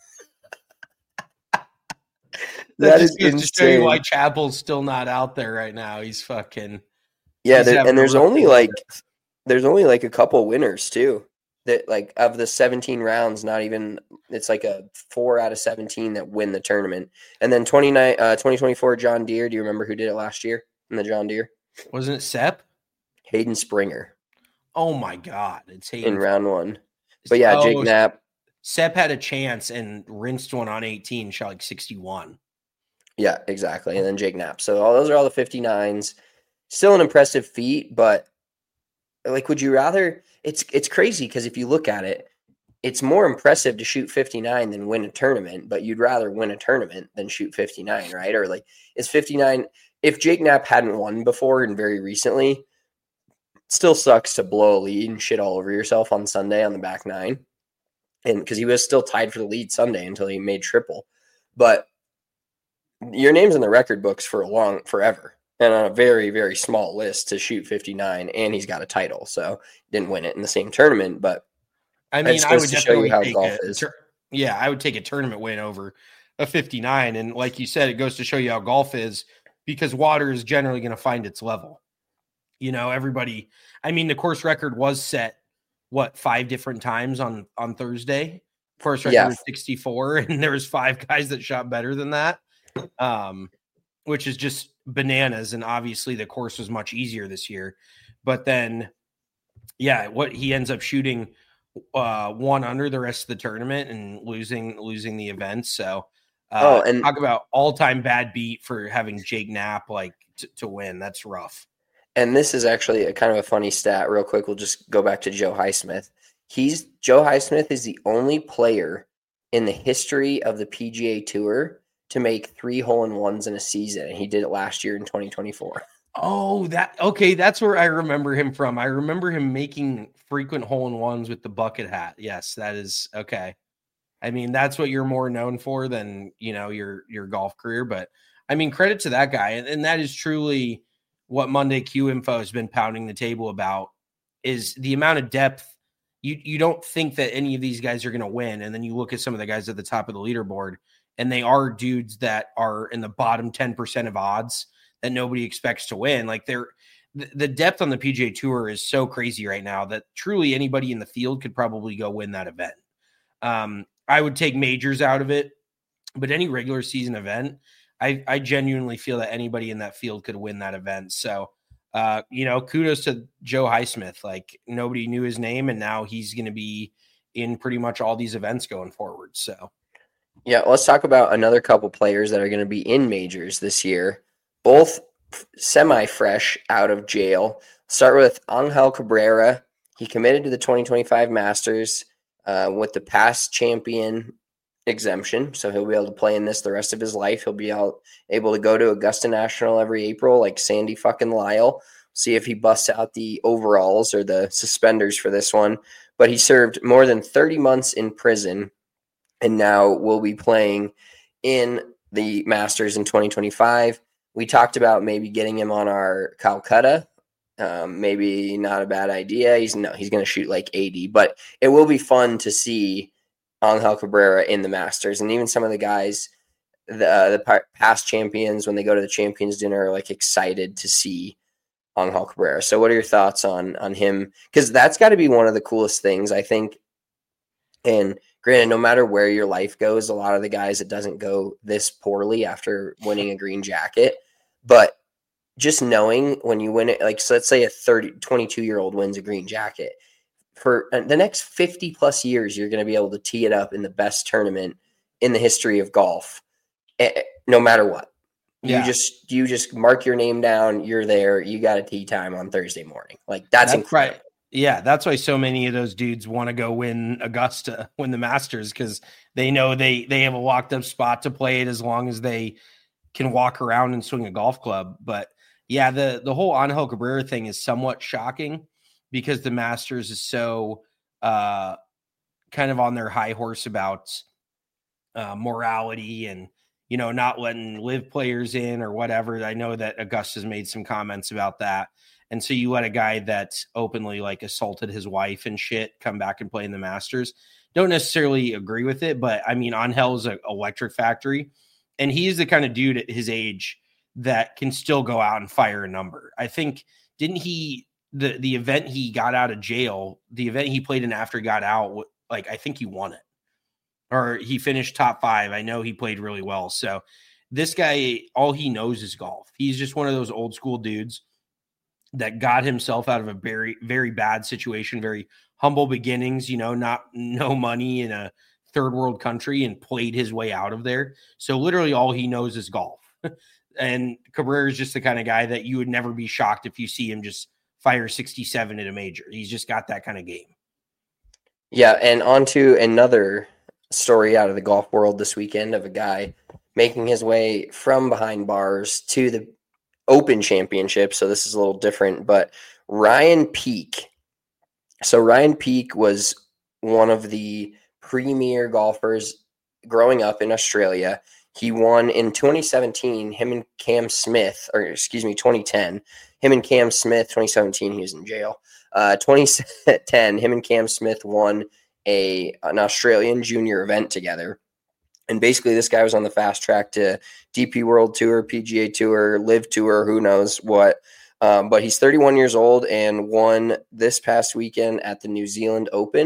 that is insane. To show you why Chappell's still not out there right now. He's fucking. Yeah, there's only like a couple winners too. That like of the 17 rounds, not even it's like a 4 out of 17 that win the tournament. And then 2024 John Deere. Do you remember who did it last year in the John Deere? Wasn't it Sepp? Hayden Springer. Oh my God, it's Hayden in round 1. But yeah, Jake Knapp. Sepp had a chance and rinsed one on 18, shot like 61. Yeah, exactly. And then Jake Knapp. So those are all the 59s. Still an impressive feat, but like, would you rather? It's crazy because if you look at it, it's more impressive to shoot 59 than win a tournament, but you'd rather win a tournament than shoot 59, right? Or like, is 59, if Jake Knapp hadn't won before and very recently, it still sucks to blow a lead and shit all over yourself on Sunday on the back 9. And because he was still tied for the lead Sunday until he made triple. But your name's in the record books forever. And on a very, very small list to shoot 59, and he's got a title. So didn't win it in the same tournament, but I mean, I would show you how golf is. I would take a tournament win over a 59. And like you said, it goes to show you how golf is, because water is generally going to find its level. You know, everybody, I mean, the course record was set, 5 different times on Thursday. Course record was 64, and there was 5 guys that shot better than that, which is just bananas. And obviously the course was much easier this year. But then, what he ends up shooting 1 under the rest of the tournament and losing the event. So and talk about all-time bad beat for having Jake Knapp to win. That's rough. And this is actually a kind of a funny stat. Real quick, we'll just go back to Joe Highsmith. Joe Highsmith is the only player in the history of the PGA Tour to make 3 hole-in-ones in a season, and he did it last year in 2024. Oh, that's where I remember him from. I remember him making frequent hole-in-ones with the bucket hat. Yes, that is okay. I mean, that's what you're more known for than, your golf career. But I mean, credit to that guy. And that is truly what Monday Q Info has been pounding the table about, is the amount of depth. You don't think that any of these guys are going to win. And then you look at some of the guys at the top of the leaderboard, and they are dudes that are in the bottom 10% of odds that nobody expects to win. Like the depth on the PGA Tour is so crazy right now that truly anybody in the field could probably go win that event. I would take majors out of it, but any regular season event, I genuinely feel that anybody in that field could win that event. So, kudos to Joe Highsmith. Like, nobody knew his name, and now he's going to be in pretty much all these events going forward. So, yeah, let's talk about another couple players that are going to be in majors this year, both semi-fresh out of jail. Start with Angel Cabrera. He committed to the 2025 Masters with the past champion exemption, so he'll be able to play in this the rest of his life. He'll be able to go to Augusta National every April like Sandy fucking Lyle. See if he busts out the overalls or the suspenders for this one. But he served more than 30 months in prison, and now will be playing in the Masters in 2025. We talked about maybe getting him on our Calcutta. Maybe not a bad idea. He's going to shoot like 80, but it will be fun to see Angel Cabrera in the Masters. And even some of the guys, the past champions, when they go to the Champions Dinner, are like excited to see Angel Cabrera. So what are your thoughts on him? Because that's got to be one of the coolest things, I think. And granted, no matter where your life goes, a lot of the guys, it doesn't go this poorly after winning a green jacket. But just knowing when you win it, like, so let's say a 22-year-old wins a green jacket. For the next 50 plus years, you're going to be able to tee it up in the best tournament in the history of golf, no matter what. Yeah. You just mark your name down. You're there. You got a tee time on Thursday morning. Like, that's incredible. Right. Yeah, that's why so many of those dudes want to go win Augusta, win the Masters, because they know they have a locked up spot to play it as long as they can walk around and swing a golf club. But yeah, the whole Angel Cabrera thing is somewhat shocking, because the Masters is so kind of on their high horse about morality and, not letting live players in or whatever. I know that Augusta's made some comments about that. And so you let a guy that openly like assaulted his wife and shit come back and play in the Masters. Don't necessarily agree with it, but I mean, Angel's an electric factory, and he's the kind of dude at his age that can still go out and fire a number. I think, didn't he, the event he got out of jail, the event he played in after he got out, like, I think he won it, or he finished top 5. I know he played really well. So this guy, all he knows is golf. He's just one of those old school dudes that got himself out of a very, very bad situation, very humble beginnings, no money in a third world country, and played his way out of there. So literally all he knows is golf. And Cabrera is just the kind of guy that you would never be shocked if you see him just fire 67 at a major. He's just got that kind of game. Yeah, and on to another story out of the golf world this weekend of a guy making his way from behind bars to the Open Championship. So this is a little different, but Ryan Peake. So Ryan Peake was one of the premier golfers growing up in Australia. He won in 2017, 2010, him and Cam Smith, 2017, he was in jail. 2010, him and Cam Smith won an Australian junior event together. And basically this guy was on the fast track to DP World Tour, PGA Tour, Live Tour, who knows what. But he's 31 years old and won this past weekend at the New Zealand Open,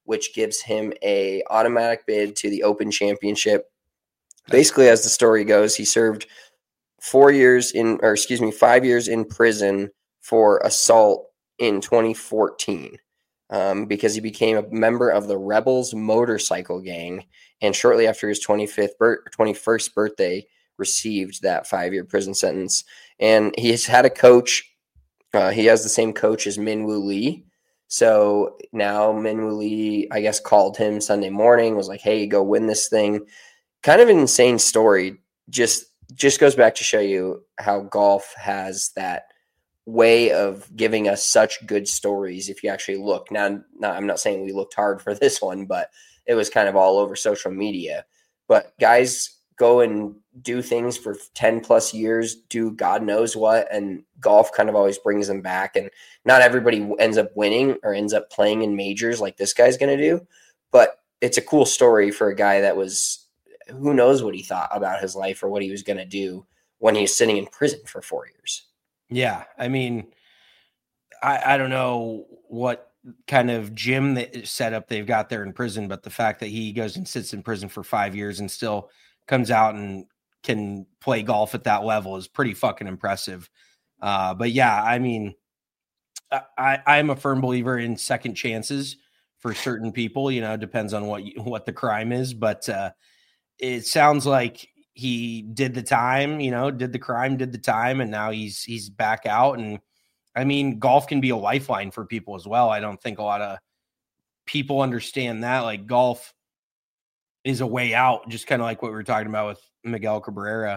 which gives him a automatic bid to the Open Championship. Basically, as the story goes, he served 5 years in prison for assault in 2014 because he became a member of the Rebels motorcycle gang, and shortly after his 21st birthday, received that 5-year prison sentence. And he has had a coach. He has the same coach as Min-Woo Lee. So now Min-Woo Lee, I guess, called him Sunday morning, was like, hey, go win this thing. Kind of an insane story. Just goes back to show you how golf has that way of giving us such good stories if you actually look. Now, I'm not saying we looked hard for this one, but it was kind of all over social media. But guys go and do things for 10 plus years, do God knows what, and golf kind of always brings them back. And not everybody ends up winning or ends up playing in majors like this guy's going to do, but it's a cool story for a guy that was, who knows what he thought about his life or what he was going to do when he was sitting in prison for 4 years. Yeah. I mean, I don't know what kind of gym setup they've got there in prison, but the fact that he goes and sits in prison for 5 years and still comes out and can play golf at that level is pretty fucking impressive. But yeah, I mean, I'm a firm believer in second chances for certain people, depends on what the crime is, but it sounds like he did the time, did the crime, did the time, and now he's back out. And I mean, golf can be a lifeline for people as well. I don't think a lot of people understand that. Like, golf is a way out, just kind of like what we were talking about with Miguel Cabrera.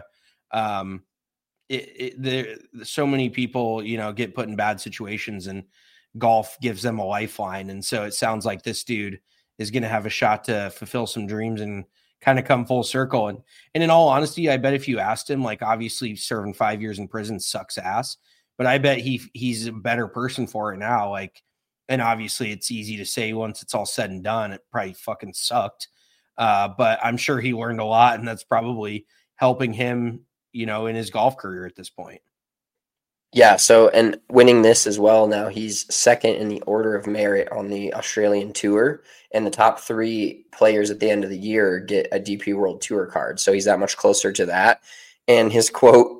So many people, get put in bad situations, and golf gives them a lifeline. And so it sounds like this dude is going to have a shot to fulfill some dreams and kind of come full circle. And in all honesty, I bet if you asked him, like, obviously serving 5 years in prison sucks ass, but I bet he's a better person for it now. Like, and obviously it's easy to say once it's all said and done, it probably fucking sucked. But I'm sure he learned a lot, and that's probably helping him, in his golf career at this point. Yeah. So, and winning this as well. Now he's second in the order of merit on the Australian Tour, and the top 3 players at the end of the year get a DP World Tour card. So he's that much closer to that. And his quote,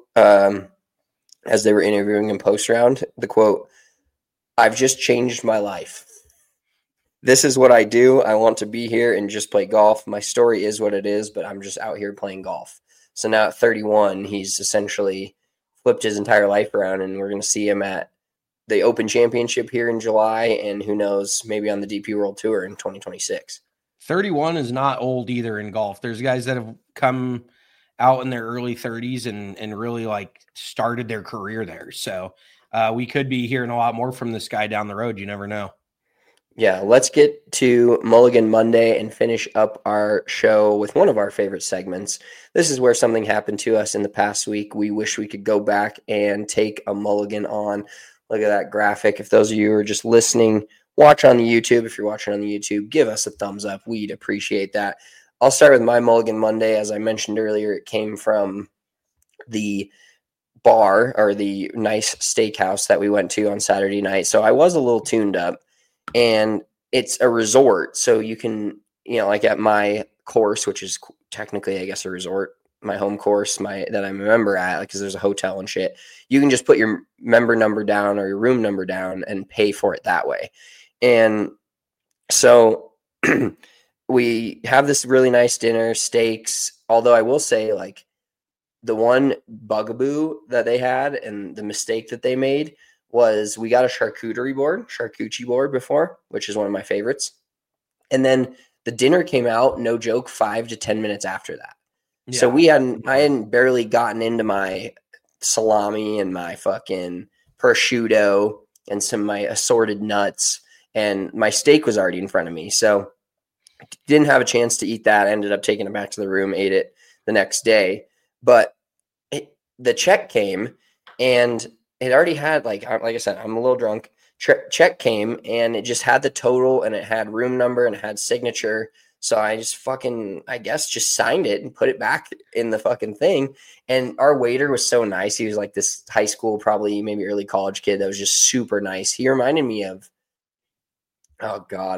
as they were interviewing him post round, the quote, "I've just changed my life. This is what I do. I want to be here and just play golf. My story is what it is, but I'm just out here playing golf." So now at 31, he's essentially flipped his entire life around, and we're going to see him at the Open Championship here in July, and who knows, maybe on the DP World Tour in 2026. 31 is not old either in golf. There's guys that have come out in their early 30s and really like started their career there. So we could be hearing a lot more from this guy down the road. You never know. Yeah, let's get to Mulligan Monday and finish up our show with one of our favorite segments. This is where something happened to us in the past week. We wish we could go back and take a mulligan on. Look at that graphic. If those of you who are just listening, watch on the YouTube. If you're watching on the YouTube, give us a thumbs up. We'd appreciate that. I'll start with my Mulligan Monday. As I mentioned earlier, it came from the bar, or the nice steakhouse that we went to on Saturday night. So I was a little tuned up. And it's a resort, so you can, like at my course, which is technically, I guess, a resort, my home course, that I'm a member at, because there's a hotel and shit. You can just put your member number down or your room number down and pay for it that way. And so we have this really nice dinner, steaks. Although I will say, like, the one bugaboo that they had and the mistake that they made was we got a charcuterie board before, which is one of my favorites. And then the dinner came out, no joke, 5 to 10 minutes after that. Yeah. So I hadn't barely gotten into my salami and my fucking prosciutto and some of my assorted nuts, and my steak was already in front of me. So didn't have a chance to eat that. I ended up taking it back to the room, ate it the next day. But the check came, and it already had, like I said, I'm a little drunk. Check came, and it just had the total, and it had room number, and it had signature. So I just just signed it and put it back in the fucking thing. And our waiter was so nice. He was like this high school, probably maybe early college kid that was just super nice. He reminded me of, oh God,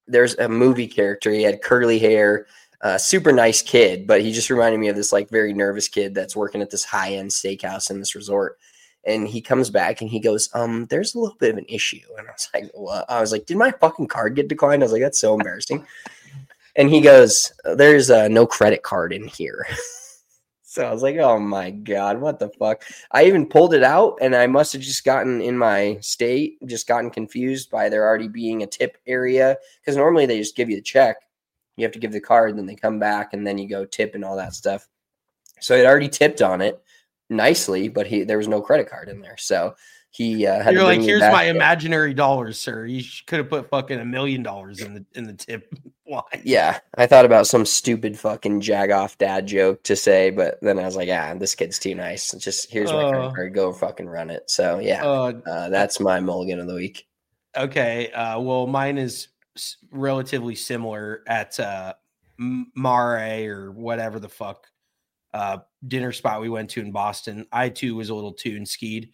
there's a movie character. He had curly hair, super nice kid, but he just reminded me of this like very nervous kid that's working at this high-end steakhouse in this resort. And he comes back and he goes, there's a little bit of an issue. And I was like, what? I was like, did my fucking card get declined? I was like, that's so embarrassing. And he goes, there's no credit card in here. So I was like, oh my God, what the fuck? I even pulled it out and I must have just gotten in my state, just gotten confused by there already being a tip area. Because normally they just give you the check. You have to give the card, then they come back and then you go tip and all that stuff. So I'd already tipped on it nicely, but there was no credit card in there. So he had You're to like, here's my there. imaginary dollars, sir. You could have put fucking $1 million in the tip line. Yeah, I thought about some stupid fucking jag-off dad joke to say, but then I was like, this kid's too nice. Just here's my credit card. Go fucking run it. So yeah, that's my mulligan of the week. Okay, well, mine is relatively similar at Mare or whatever the fuck dinner spot we went to in Boston. I too was a little tune skied.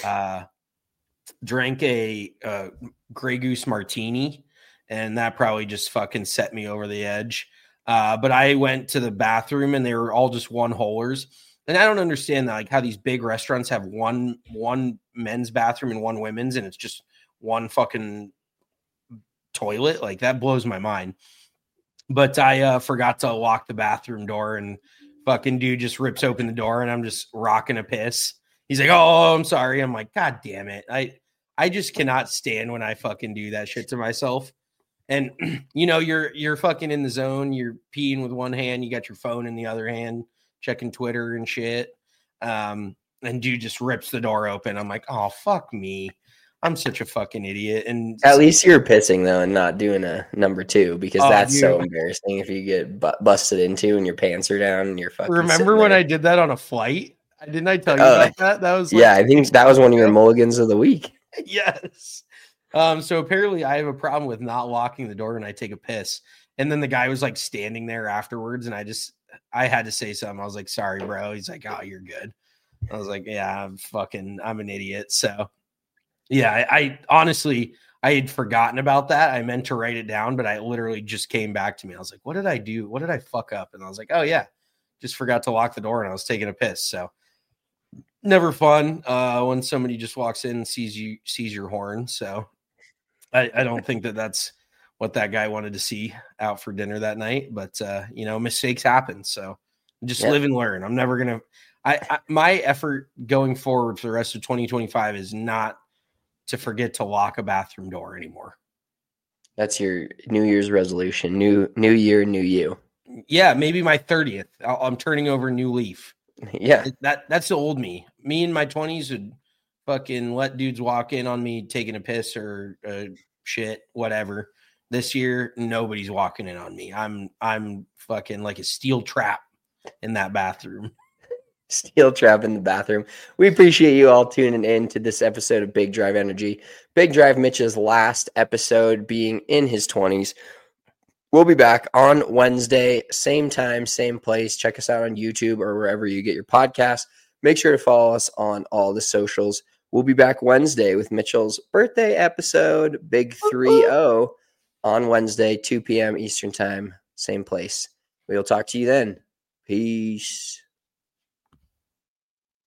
Drank a Grey Goose martini, and that probably just fucking set me over the edge. But I went to the bathroom and they were all just one holers. And I don't understand that, like how these big restaurants have one men's bathroom and one women's, and it's just one fucking toilet. Like that blows my mind. But I forgot to lock the bathroom door, and fucking dude just rips open the door and I'm just rocking a piss. He's like, oh, I'm sorry. I'm like, God damn it. I just cannot stand when I fucking do that shit to myself. And you know, you're fucking in the zone. You're peeing with one hand. You got your phone in the other hand, checking Twitter and shit. And dude just rips the door open. I'm like, oh, fuck me. I'm such a fucking idiot. And at least you're pissing though and not doing a number 2, because that's so embarrassing if you get busted into and your pants are down and you're fucking. Remember when I did that on a flight? Didn't I tell you about that? That was I think that was one of your mulligans of the week. Yes. So apparently I have a problem with not locking the door when I take a piss. And then the guy was like standing there afterwards, and I had to say something. I was like, sorry, bro. He's like, oh, you're good. I was like, yeah, I'm an idiot. So yeah, I honestly, I had forgotten about that. I meant to write it down, but I literally just came back to me. I was like, what did I do? What did I fuck up? And I was like, oh yeah, just forgot to lock the door and I was taking a piss. So never fun when somebody just walks in and sees your horn. So I don't think that's what that guy wanted to see out for dinner that night, but you know, mistakes happen. So just live and learn. I'm never going to, my effort going forward for the rest of 2025 is not to forget to lock a bathroom door anymore. That's your New Year's resolution. New year, new you. Yeah, maybe my 30th. I'm turning over a new leaf. Yeah. That's the old me. Me in my 20s would fucking let dudes walk in on me taking a piss or shit, whatever. This year, nobody's walking in on me. I'm fucking like a steel trap in that bathroom. Steel trap in the bathroom. We appreciate you all tuning in to this episode of Big Drive Energy. Big Drive Mitch's last episode being in his 20s. We'll be back on Wednesday, same time, same place. Check us out on YouTube or wherever you get your podcasts. Make sure to follow us on all the socials. We'll be back Wednesday with Mitchell's birthday episode, Big 3-0, on Wednesday, 2 p.m. Eastern time, same place. We'll talk to you then. Peace.